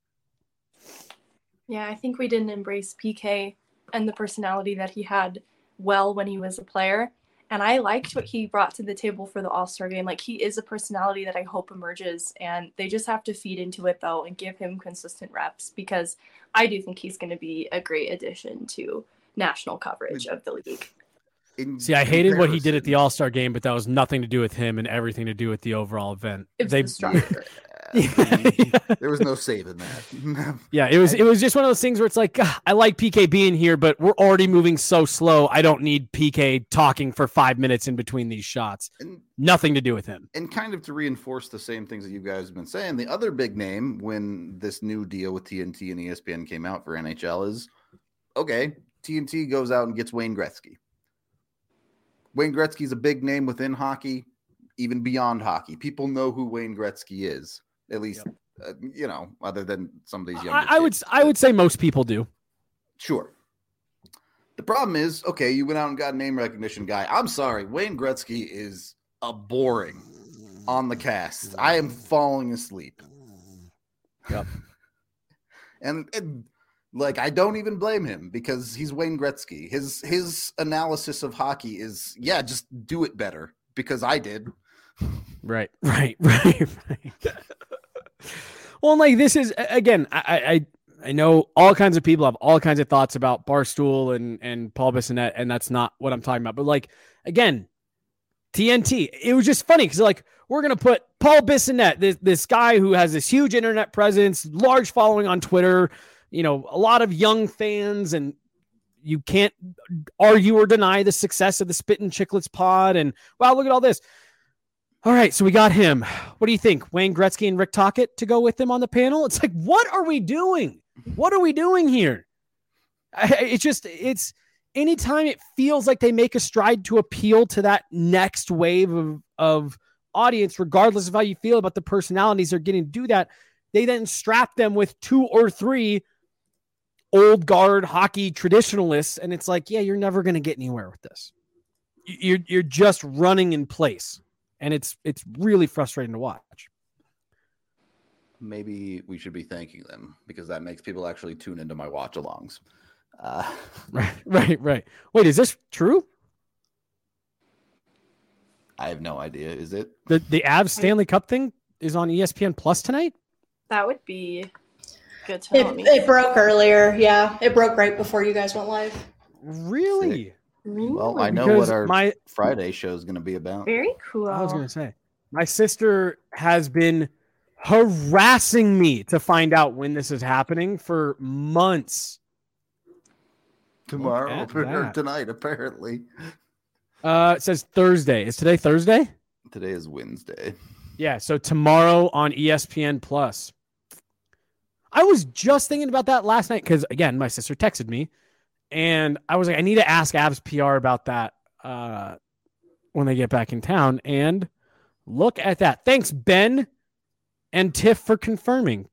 Yeah, I think we didn't embrace P K and the personality that he had well when he was a player. And I liked what he brought to the table for the All-Star game. Like, he is a personality that I hope emerges. And they just have to feed into it, though, and give him consistent reps. Because I do think he's going to be a great addition to national coverage of the league. In See, I hated what he did at comparison- the All-Star game, but that was nothing to do with him and everything to do with the overall event. It's They, the structure. Yeah, there was no saving that. yeah, it was it was just one of those things where it's like, "Ugh, I like P K being here, but we're already moving so slow. I don't need P K talking for five minutes in between these shots. and, Nothing to do with him. and kind of to reinforce the same things that you guys have been saying, the other big name when this new deal with T N T and E S P N came out for N H L is, okay, T N T goes out and gets Wayne Gretzky. Wayne Gretzky's a big name within hockey, even beyond hockey. People know who Wayne Gretzky is, at least, Yep. uh, you know, other than some of these young. I, I would I would say most people do. Sure. The problem is, okay, you went out and got a name recognition guy. I'm sorry, Wayne Gretzky is a boring on the cast. I am falling asleep. Yep. and, and like, I don't even blame him because he's Wayne Gretzky. His his analysis of hockey is, yeah, just do it better because I did. Right, right, right, right. Well, like this is again, I, I I know all kinds of people have all kinds of thoughts about Barstool and and Paul Bissonnette, and that's not what I'm talking about. But like again, T N T, it was just funny because like we're gonna put Paul Bissonnette, this this guy who has this huge internet presence, large following on Twitter, you know, a lot of young fans, and you can't argue or deny the success of the Spittin' Chicklets pod. And wow, look at all this. All right, so we got him. What do you think? Wayne Gretzky and Rick Tocchet to go with him on the panel? It's like, what are we doing? What are we doing here? I, it's just, it's anytime it feels like they make a stride to appeal to that next wave of, of audience, regardless of how you feel about the personalities they're getting to do that, they then strap them with two or three old guard hockey traditionalists. And it's like, yeah, you're never going to get anywhere with this. You're, you're just running in place. And it's it's really frustrating to watch. Maybe we should be thanking them because that makes people actually tune into my watch-alongs. Uh, right, right, right. Wait, is this true? I have no idea. Is it? The the Avs Stanley Cup thing is on E S P N Plus tonight? That would be good to know. It, it broke earlier. Yeah, it broke right before you guys went live. Really? Sick. Well, I know Because what our my Friday show is going to be about. Very cool. I was going to say, my sister has been harassing me to find out when this is happening for months. Tomorrow Look at or that. tonight, apparently. Uh, it says Thursday. Is today Thursday? Today is Wednesday. Yeah, so tomorrow on E S P N Plus. I was just thinking about that last night because, again, my sister texted me. And I was like, I need to ask Avs P R about that uh, when they get back in town. And look at that. Thanks, Ben and Tiff, for confirming.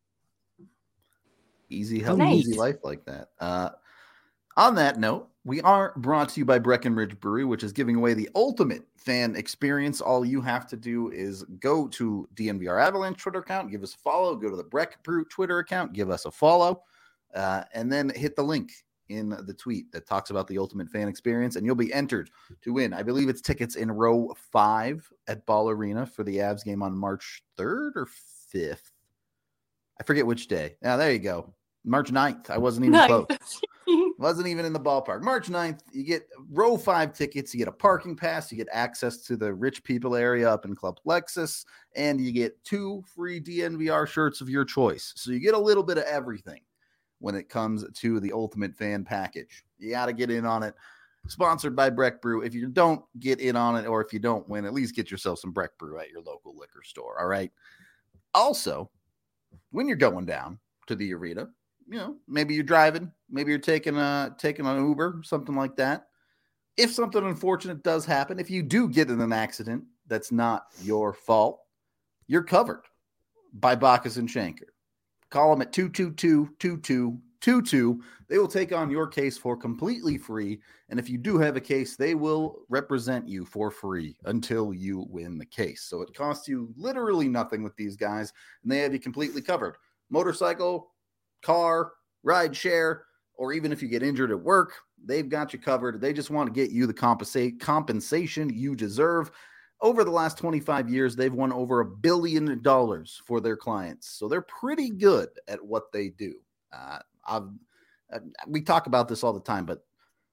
Easy health, Nice. easy life like that. Uh, on that note, we are brought to you by Breckenridge Brewery, which is giving away the ultimate fan experience. All you have to do is go to D N V R Avalanche Twitter account, give us a follow, go to the Breck Brew Twitter account, give us a follow, uh, and then hit the link in the tweet that talks about the ultimate fan experience, and you'll be entered to win. I believe it's tickets in row five at Ball Arena for the Avs game on March third or fifth. I forget which day. Now, there you go. March ninth. I wasn't even Nice. close. Wasn't even in the ballpark. March ninth, you get row five tickets. You get a parking pass. You get access to the rich people area up in Club Lexus, and you get two free D N V R shirts of your choice. So you get a little bit of everything when it comes to the ultimate fan package. You got to get in on it. Sponsored by Breck Brew. If you don't get in on it, or if you don't win, at least get yourself some Breck Brew at your local liquor store. All right. Also, when you're going down to the arena, you know, maybe you're driving, maybe you're taking a taking an Uber, something like that. If something unfortunate does happen, if you do get in an accident that's not your fault, you're covered by Bacchus and Shanker. Call them at two two two, two two two two. They will take on your case for completely free. And if you do have a case, they will represent you for free until you win the case. So it costs you literally nothing with these guys, and they have you completely covered. Motorcycle, car, ride share, or even if you get injured at work, they've got you covered. They just want to get you the compensate compensation you deserve. Over the last twenty-five years, they've won over a billion dollars for their clients. So they're pretty good at what they do. Uh, I've, uh, we talk about this all the time, but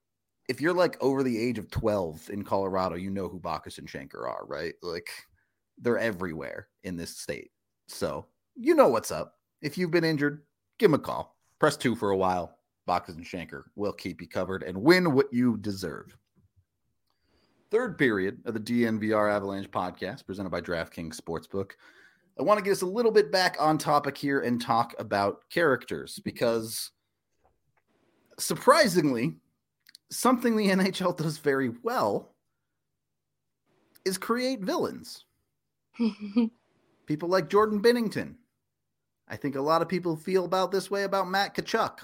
if you're like over the age of twelve in Colorado, you know who Bacchus and Shanker are, right? Like they're everywhere in this state. So you know what's up. If you've been injured, give them a call. Press two for a while. Bacchus and Shanker will keep you covered and win what you deserve. Third period of the D N V R Avalanche podcast presented by DraftKings Sportsbook. I want to get us a little bit back on topic here and talk about characters because surprisingly, something the N H L does very well is create villains. People like Jordan Binnington. I think a lot of people feel about this way about Matt Tkachuk.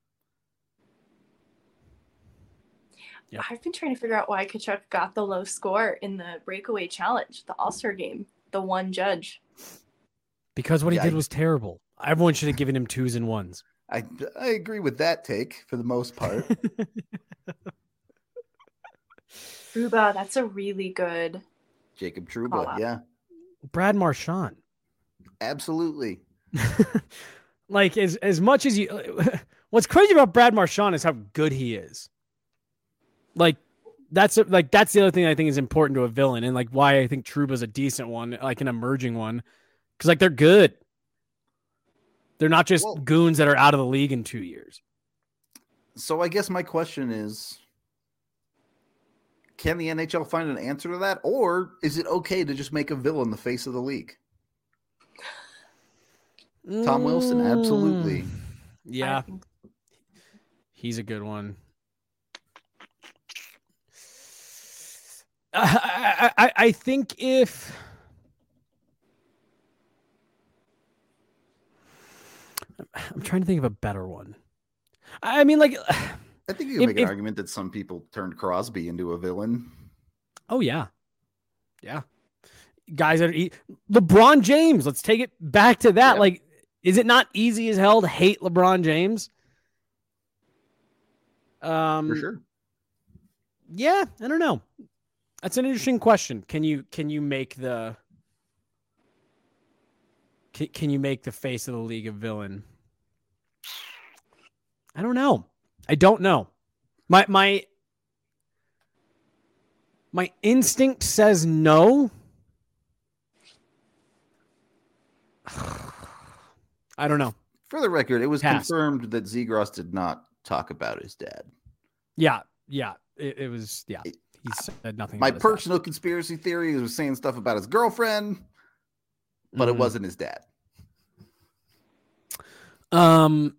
Yep. I've been trying to figure out why Tkachuk got the low score in the breakaway challenge, the All-Star game, the one judge. Because what yeah, he did I, was terrible. Everyone should have given him twos and ones. I, I agree with that take for the most part. Trouba, that's a really good. Jacob Trouba, yeah. Brad Marchand. Absolutely. Like as as much as you, what's crazy about Brad Marchand is how good he is. Like that's a, like that's the other thing I think is important to a villain, and like why I think Trouba's a decent one, like an emerging one, because like they're good. They're not just well, goons that are out of the league in two years. So I guess my question is, can the N H L find an answer to that, or is it okay to just make a villain the face of the league? Tom Wilson, absolutely. Yeah. He's a good one. I, I, I think if I'm trying to think of a better one. I mean, like, I think you can if, make an if, argument that some people turned Crosby into a villain. Oh, yeah. Yeah. Guys that are LeBron James. Let's take it back to that. Yeah. Like, is it not easy as hell to hate LeBron James? Um, For sure. Yeah, I don't know. That's an interesting question. Can you can you make the can, can you make the face of the league a villain? I don't know. I don't know. My my my instinct says no. I don't know. For the record, it was Pass. confirmed that Zegras did not talk about his dad. Yeah, yeah. It, it was, yeah. He said nothing My about personal conspiracy theory was saying stuff about his girlfriend, but mm. it wasn't his dad. Um,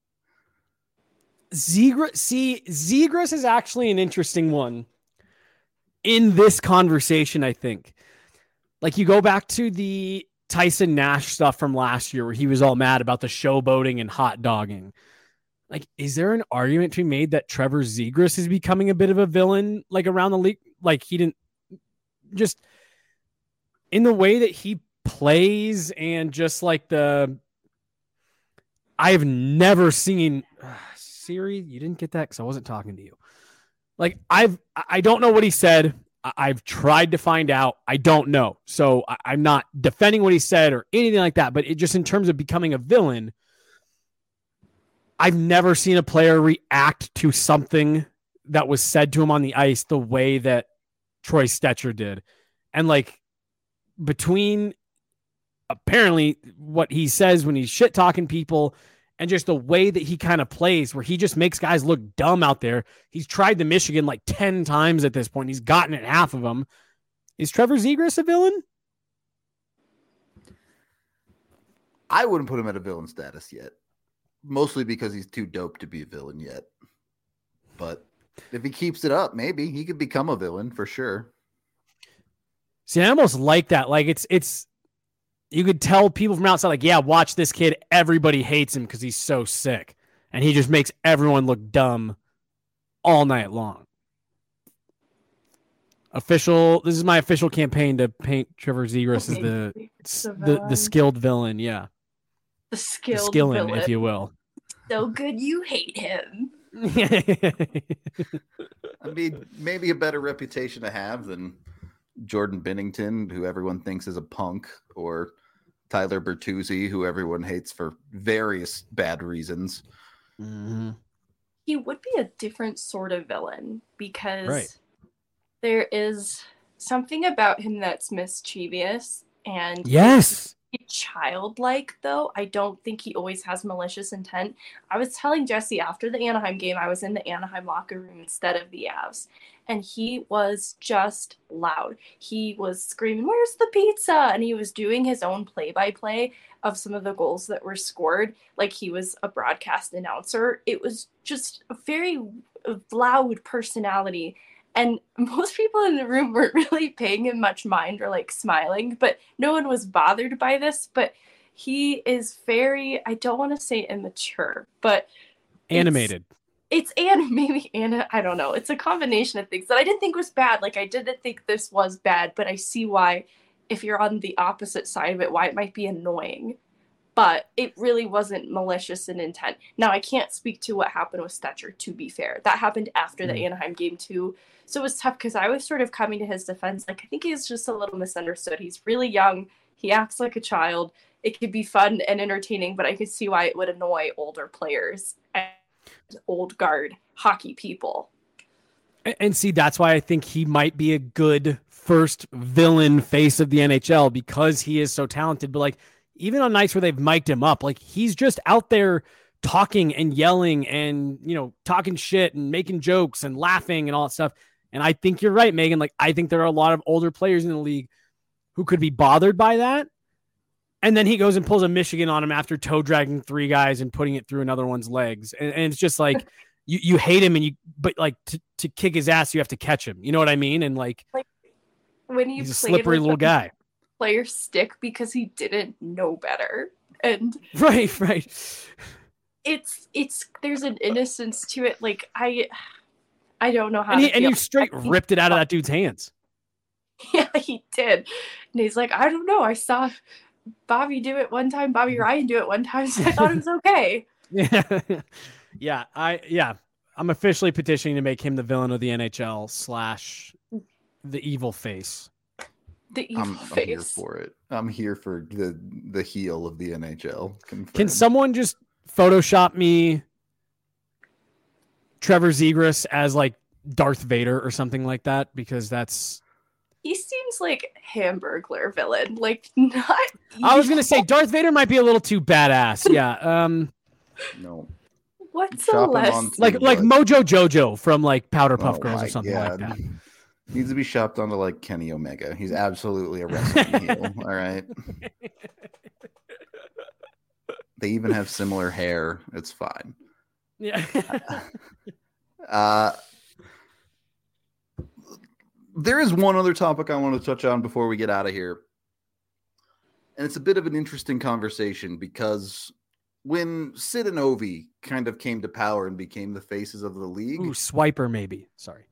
Zegras, see, Zegras is actually an interesting one in this conversation, I think. Like, you go back to the Tyson Nash stuff from last year where he was all mad about the showboating and hot dogging. Like, is there an argument to be made that Trevor Zegras is becoming a bit of a villain, like around the league? Like, he didn't just in the way that he plays and just like the, I've never seen uh, Siri. You didn't get that because I wasn't talking to you. Like, I've, I don't know what he said. I've tried to find out. I don't know. So I'm not defending what he said or anything like that. But it just in terms of becoming a villain, I've never seen a player react to something that was said to him on the ice the way that Troy Stecher did. And like between apparently what he says when he's shit talking people and just the way that he kind of plays where he just makes guys look dumb out there. He's tried the Michigan like ten times at this point. He's gotten it half of them. Is Trevor Zegras a villain? I wouldn't put him at a villain status yet. Mostly because he's too dope to be a villain yet. But if he keeps it up, maybe he could become a villain for sure. See, I almost like that. Like it's, it's, you could tell people from outside, like, yeah, watch this kid. Everybody hates him because he's so sick. And he just makes everyone look dumb all night long. Official, this is my official campaign to paint Trevor Zegras as the, the, the, the skilled villain. Yeah. The skilled the skillin', villain. If you will. So good you hate him. I mean, maybe a better reputation to have than Jordan Binnington, who everyone thinks is a punk, or Tyler Bertuzzi, who everyone hates for various bad reasons. Mm-hmm. he would be a different sort of villain because Right. there is something about him that's mischievous and Yes. childlike, though. I don't think he always has malicious intent. I was telling Jesse after the Anaheim game, I was in the Anaheim locker room instead of the Avs, and he was just loud. He was screaming, "Where's the pizza?" And he was doing his own play-by-play of some of the goals that were scored, like he was a broadcast announcer. It was just a very loud personality. And most people in the room weren't really paying him much mind or like smiling, but no one was bothered by this. But he is very, I don't want to say immature, but Animated. It's, it's and maybe Anna, I don't know. It's a combination of things that I didn't think was bad. Like I didn't think this was bad, but I see why, if you're on the opposite side of it, why it might be annoying. But it really wasn't malicious in intent. Now, I can't speak to what happened with Stetcher, to be fair. That happened after the mm. Anaheim game, too. So it was tough because I was sort of coming to his defense. Like, I think he's just a little misunderstood. He's really young. He acts like a child. It could be fun and entertaining, but I could see why it would annoy older players and old guard hockey people. And, and see, that's why I think he might be a good first villain face of the N H L because he is so talented. But, like, even on nights where they've mic'd him up, like he's just out there talking and yelling and, you know, talking shit and making jokes and laughing and all that stuff. And I think you're right, Megan. Like, I think there are a lot of older players in the league who could be bothered by that. And then he goes and pulls a Michigan on him after toe dragging three guys and putting it through another one's legs. And, and it's just like, you, you hate him and you, but like to, to kick his ass, you have to catch him. You know what I mean? And like, like when you he's a slippery little guy. Player stick because he didn't know better, and right right it's it's there's an innocence to it. Like i i don't know how and, to he, and you straight ripped it out of that dude's hands. Yeah, he did. And he's like, I don't know, I saw Bobby do it one time, Bobby Ryan do it one time, so I thought it was okay. Yeah. yeah I yeah I'm officially petitioning to make him the villain of the N H L slash the evil face. The evil I'm, face. I'm here for it. I'm here for the the heel of the N H L. Confirmed. Can someone just Photoshop me Trevor Zegras as like Darth Vader or something like that? Because that's he seems like Hamburglar villain. Like not. I was gonna say Darth Vader might be a little too badass. Yeah. Um. No. What's a less like like Mojo Jojo from like Powder Puff oh Girls or something God. like that? Needs to be shopped onto like Kenny Omega. He's absolutely a wrestling heel. All right. They even have similar hair. It's fine. Yeah. uh, there is one other topic I want to touch on before we get out of here. And it's a bit of an interesting conversation because when Sid and Ovi kind of came to power and became the faces of the league. Ooh, Swiper maybe. Sorry.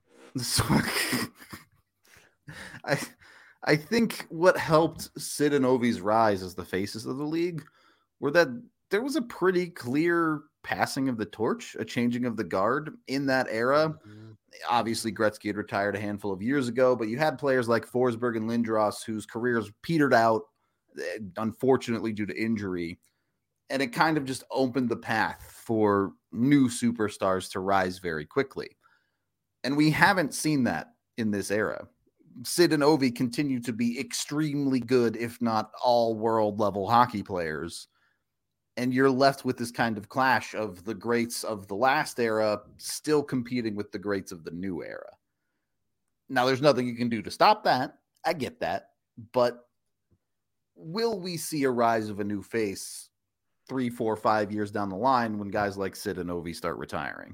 I I think what helped Sid and Ovi's rise as the faces of the league were that there was a pretty clear passing of the torch, a changing of the guard in that era. Mm-hmm. Obviously, Gretzky had retired a handful of years ago, but you had players like Forsberg and Lindros whose careers petered out, unfortunately, due to injury. And it kind of just opened the path for new superstars to rise very quickly. And we haven't seen that in this era. Sid and Ovi continue to be extremely good, if not all world level hockey players. And you're left with this kind of clash of the greats of the last era still competing with the greats of the new era. Now, there's nothing you can do to stop that. I get that. But will we see a rise of a new face three, four, five years down the line when guys like Sid and Ovi start retiring?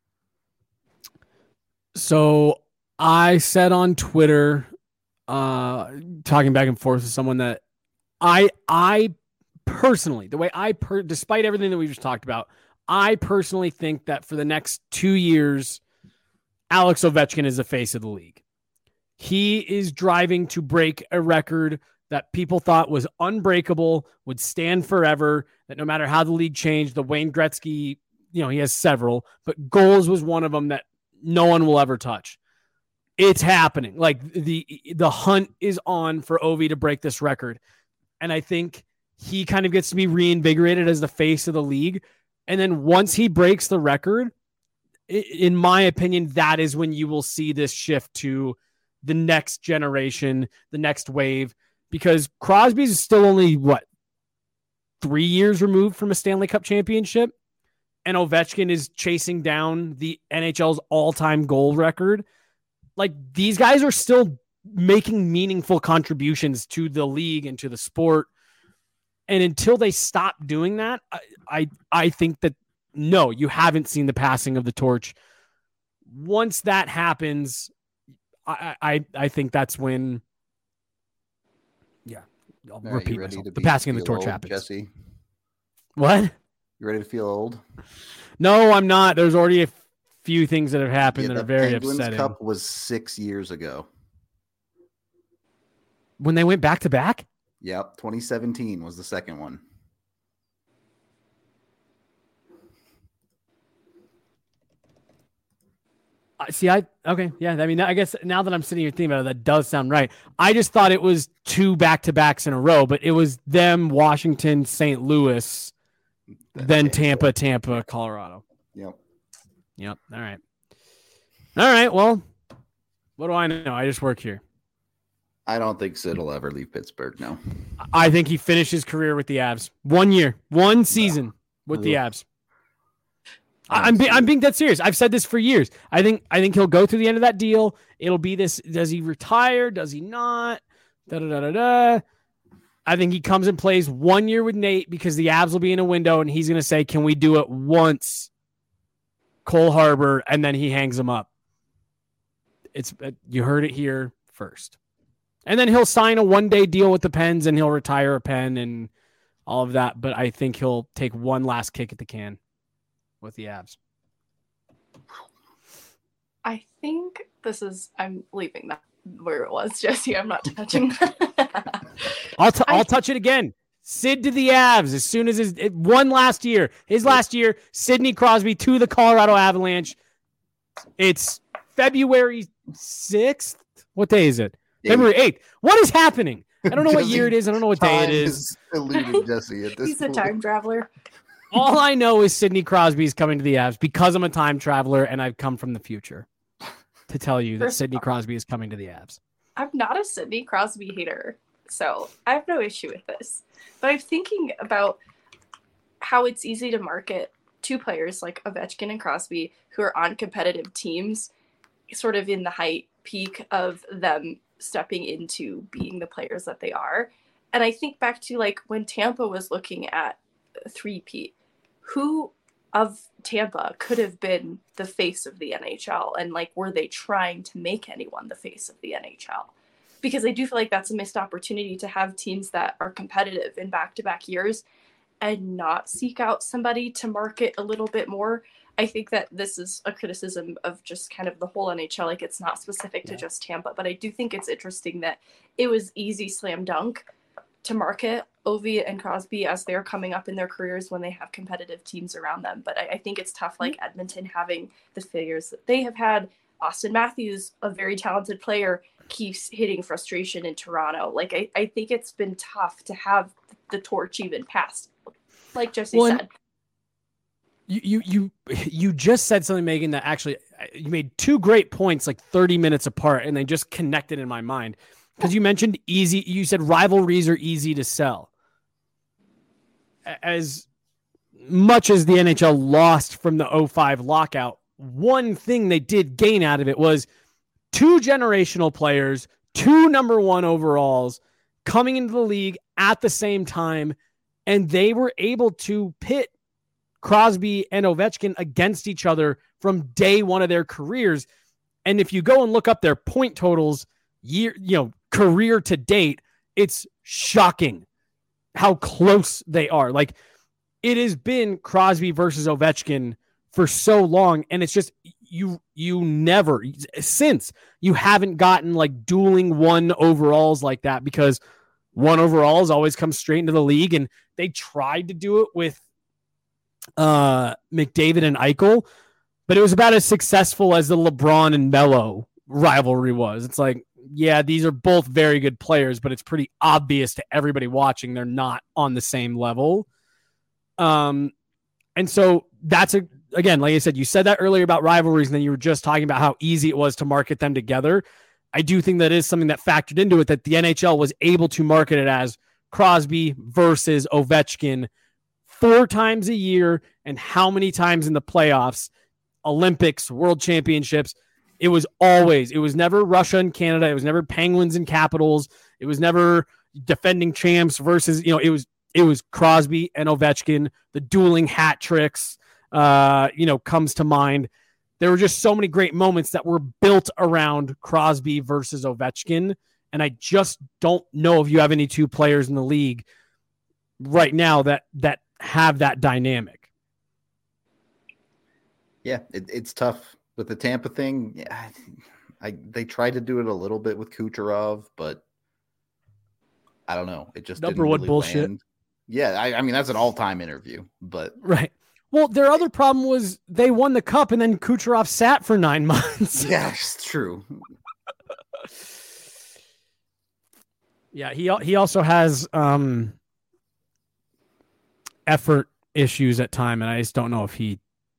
So I said on Twitter, uh, talking back and forth with someone that I, I personally, the way I, per, despite everything that we just talked about, I personally think that for the next two years, Alex Ovechkin is the face of the league. He is driving to break a record that people thought was unbreakable, would stand forever, that no matter how the league changed, the Wayne Gretzky, you know, he has several, but goals was one of them that no one will ever touch. It's happening. Like the the hunt is on for Ovi to break this record. And I think he kind of gets to be reinvigorated as the face of the league. And then once he breaks the record, in my opinion, that is when you will see this shift to the next generation, the next wave, because Crosby's still only, what, three years removed from a Stanley Cup championship, and Ovechkin is chasing down the N H L's all-time goal record. Like, these guys are still making meaningful contributions to the league and to the sport. And until they stop doing that, I, I, I think that, no, you haven't seen the passing of the torch. Once that happens, I, I, I think that's when, yeah, I'll All right, repeat you ready myself. to The be- passing of the feel torch old, happens. Jesse, What? you ready to feel old? No, I'm not. There's already a few things that have happened Yeah, that are the very Penguins upsetting. Cup was six years ago. When they went back to back? Yep, twenty seventeen was the second one. Uh, See, I okay, yeah. I mean, I guess now that I'm sitting here thinking about it, that does sound right. I just thought it was two back to backs in a row, but it was them, Washington, Saint Louis, then Tampa, Tampa, Colorado. Yep. Yep. All right. All right. Well, what do I know? I just work here. I don't think Sid will ever leave Pittsburgh. No. I think he finished his career with the Avs. One year, one season with the Ugh. Avs. I- I'm being I'm being dead serious. I've said this for years. I think I think he'll go through the end of that deal. It'll be this: does he retire? Does he not? Da da da da da. I think he comes and plays one year with Nate because the Avs will be in a window, and he's going to say, "Can we do it once?" Cole Harbor, and then he hangs him up. It's you heard it here first, and then he'll sign a one-day deal with the Pens, and he'll retire a Pen and all of that. But I think he'll take one last kick at the can with the Avs. I think this is, I'm leaving that where it was, Jesse. I'm not touching that. I'll t- I- I'll touch it again. Sid to the Avs as soon as his it, one last year. His last year, Sidney Crosby to the Colorado Avalanche. It's February sixth. What day is it? Eight. February eighth. What is happening? I don't know what Jesse, year it is. I don't know what day it Time is. is eluded Jesse at this He's a point. time traveler. All I know is Sidney Crosby is coming to the Avs because I'm a time traveler and I've come from the future to tell you that First Sidney off- Crosby is coming to the Avs. I'm not a Sidney Crosby hater, so I have no issue with this. But I'm thinking about how it's easy to market two players like Ovechkin and Crosby who are on competitive teams, sort of in the height peak of them stepping into being the players that they are. And I think back to like when Tampa was looking at three-peat, who of Tampa could have been the face of the N H L, and like were they trying to make anyone the face of the N H L? Because I do feel like that's a missed opportunity to have teams that are competitive in back-to-back years and not seek out somebody to market a little bit more. I think that this is a criticism of just kind of the whole N H L. Like, it's not specific to Yeah. just Tampa, but I do think it's interesting that it was easy slam dunk to market Ovi and Crosby as they're coming up in their careers when they have competitive teams around them. But I, I think it's tough, like Edmonton having the failures that they have had. Austin Matthews, a very talented player, keeps hitting frustration in Toronto. Like, I, I think it's been tough to have the torch even passed. Like Jesse Well, and- said. You you you you just said something, Megan, that actually you made two great points like thirty minutes apart, and they just connected in my mind. Because you mentioned easy, you said rivalries are easy to sell. As much as the N H L lost from the oh five lockout, one thing they did gain out of it was two generational players, two number one overalls coming into the league at the same time, and they were able to pit Crosby and Ovechkin against each other from day one of their careers. And if you go and look up their point totals, year, you know, career to date, it's shocking how close they are. Like, it has been Crosby versus Ovechkin for so long, and it's just you you never since you haven't gotten like dueling one overalls like that, because one overalls always come straight into the league, and they tried to do it with uh McDavid and Eichel, but it was about as successful as the LeBron and Melo rivalry was. It's like, yeah, these are both very good players, but it's pretty obvious to everybody watching they're not on the same level. Um, and so that's a, again, like I said, you said that earlier about rivalries, and then you were just talking about how easy it was to market them together. I do think that is something that factored into it, that the N H L was able to market it as Crosby versus Ovechkin four times a year, and how many times in the playoffs, Olympics, World Championships. It was always, it was never Russia and Canada. It was never Penguins and Capitals. It was never defending champs versus, you know, it was, it was Crosby and Ovechkin. The dueling hat tricks, uh, you know, comes to mind. There were just so many great moments that were built around Crosby versus Ovechkin. And I just don't know if you have any two players in the league right now that, that have that dynamic. Yeah, it, it's tough with the Tampa thing. Yeah, I they tried to do it a little bit with Kucherov, but I don't know. It just Number didn't one really bullshit. land. Yeah, I, I mean that's an all-time interview, but right. Well, their other problem was they won the cup and then Kucherov sat for nine months. Yeah, it's true. Yeah, he he also has um, effort issues at time, and I just don't know if he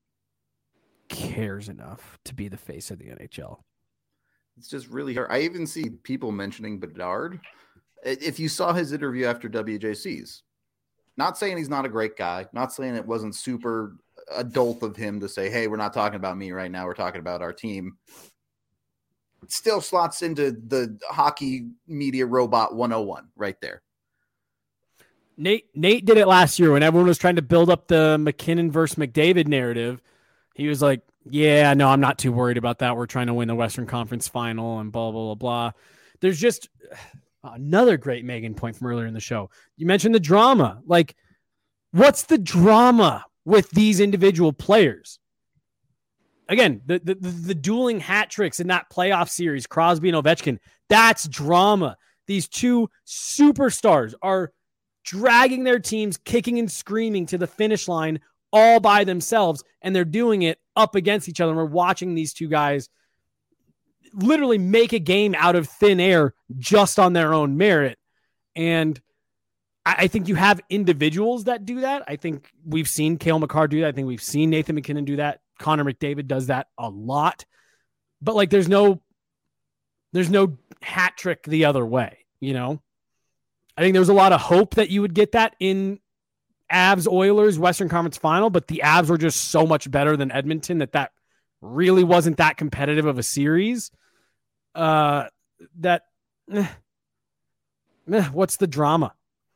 cares enough to be the face of the N H L. It's just really hard. I even see people mentioning Bedard. If you saw his interview after W J C's, not saying he's not a great guy, not saying it wasn't super adult of him to say, hey, we're not talking about me right now. We're talking about our team. It still slots into the hockey media robot one oh one right there. Nate Nate did it last year when everyone was trying to build up the McKinnon versus McDavid narrative. He was like, yeah, no, I'm not too worried about that. We're trying to win the Western Conference final and blah, blah, blah, blah. There's just another great Megan point from earlier in the show. You mentioned the drama. Like, what's the drama with these individual players? Again, the, the, the dueling hat tricks in that playoff series, Crosby and Ovechkin, that's drama. These two superstars are dragging their teams, kicking and screaming to the finish line all by themselves, and they're doing it up against each other. And we're watching these two guys literally make a game out of thin air just on their own merit. And I, I think you have individuals that do that. I think we've seen Cale Makar do that. I think we've seen Nathan McKinnon do that. Connor McDavid does that a lot. But like, there's no, there's no hat trick the other way, you know? I think there was a lot of hope that you would get that in Avs Oilers Western Conference final, but the Avs were just so much better than Edmonton that that really wasn't that competitive of a series. Uh, that eh, eh, what's the drama?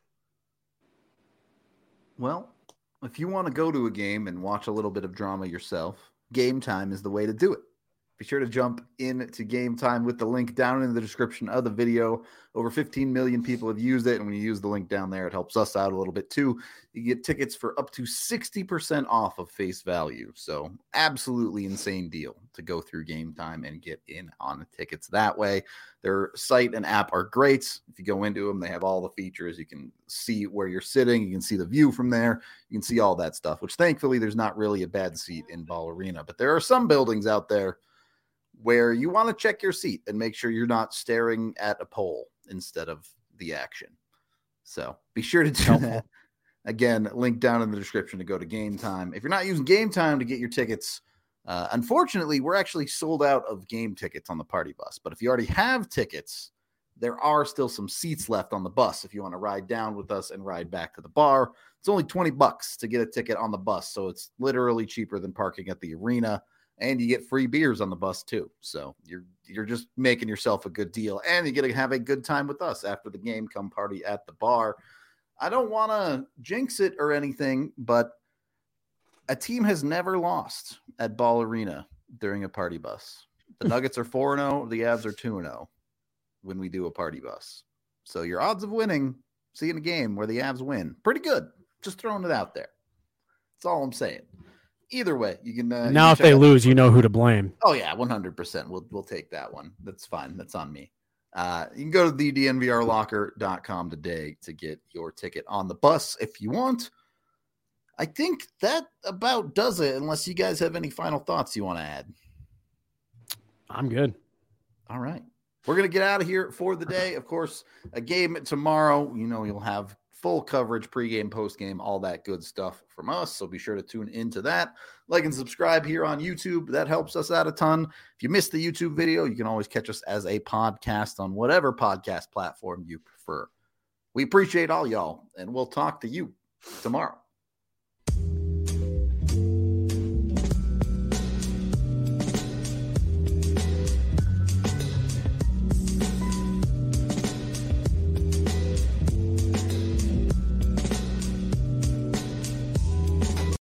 Well, if you want to go to a game and watch a little bit of drama yourself, Game Time is the way to do it. Be sure to jump into Game Time with the link down in the description of the video. Over fifteen million people have used it, and when you use the link down there, it helps us out a little bit too. You get tickets for up to sixty percent off of face value. So absolutely insane deal to go through Game Time and get in on the tickets that way. Their site and app are great. If you go into them, they have all the features. You can see where you're sitting. You can see the view from there. You can see all that stuff, which thankfully there's not really a bad seat in Ball Arena. But there are some buildings out there where you want to check your seat and make sure you're not staring at a pole instead of the action. So be sure to do that. Again, link down in the description to go to Game Time. If you're not using Game Time to get your tickets, uh, unfortunately, we're actually sold out of game tickets on the party bus. But if you already have tickets, there are still some seats left on the bus if you want to ride down with us and ride back to the bar. It's only twenty bucks to get a ticket on the bus, so it's literally cheaper than parking at the arena. And you get free beers on the bus too. So you're you're just making yourself a good deal. And you get to have a good time with us after the game. Come party at the bar. I don't want to jinx it or anything, but a team has never lost at Ball Arena during a party bus. The Nuggets are four and oh. The Avs are two and oh when we do a party bus. So your odds of winning, seeing a game where the Avs win, pretty good. Just throwing it out there. That's all I'm saying. Either way, you can. Uh, now, you if can they out- lose, you know who to blame. Oh yeah, one hundred percent. We'll we'll take that one. That's fine. That's on me. Uh, you can go to the D N V R locker dot com today to get your ticket on the bus if you want. I think that about does it. Unless you guys have any final thoughts you want to add. I'm good. All right, we're gonna get out of here for the day. Of course, a game tomorrow. You know, you'll have full coverage, pregame, postgame, all that good stuff from us. So be sure to tune into that. Like and subscribe here on YouTube. That helps us out a ton. If you missed the YouTube video, you can always catch us as a podcast on whatever podcast platform you prefer. We appreciate all y'all, and we'll talk to you tomorrow.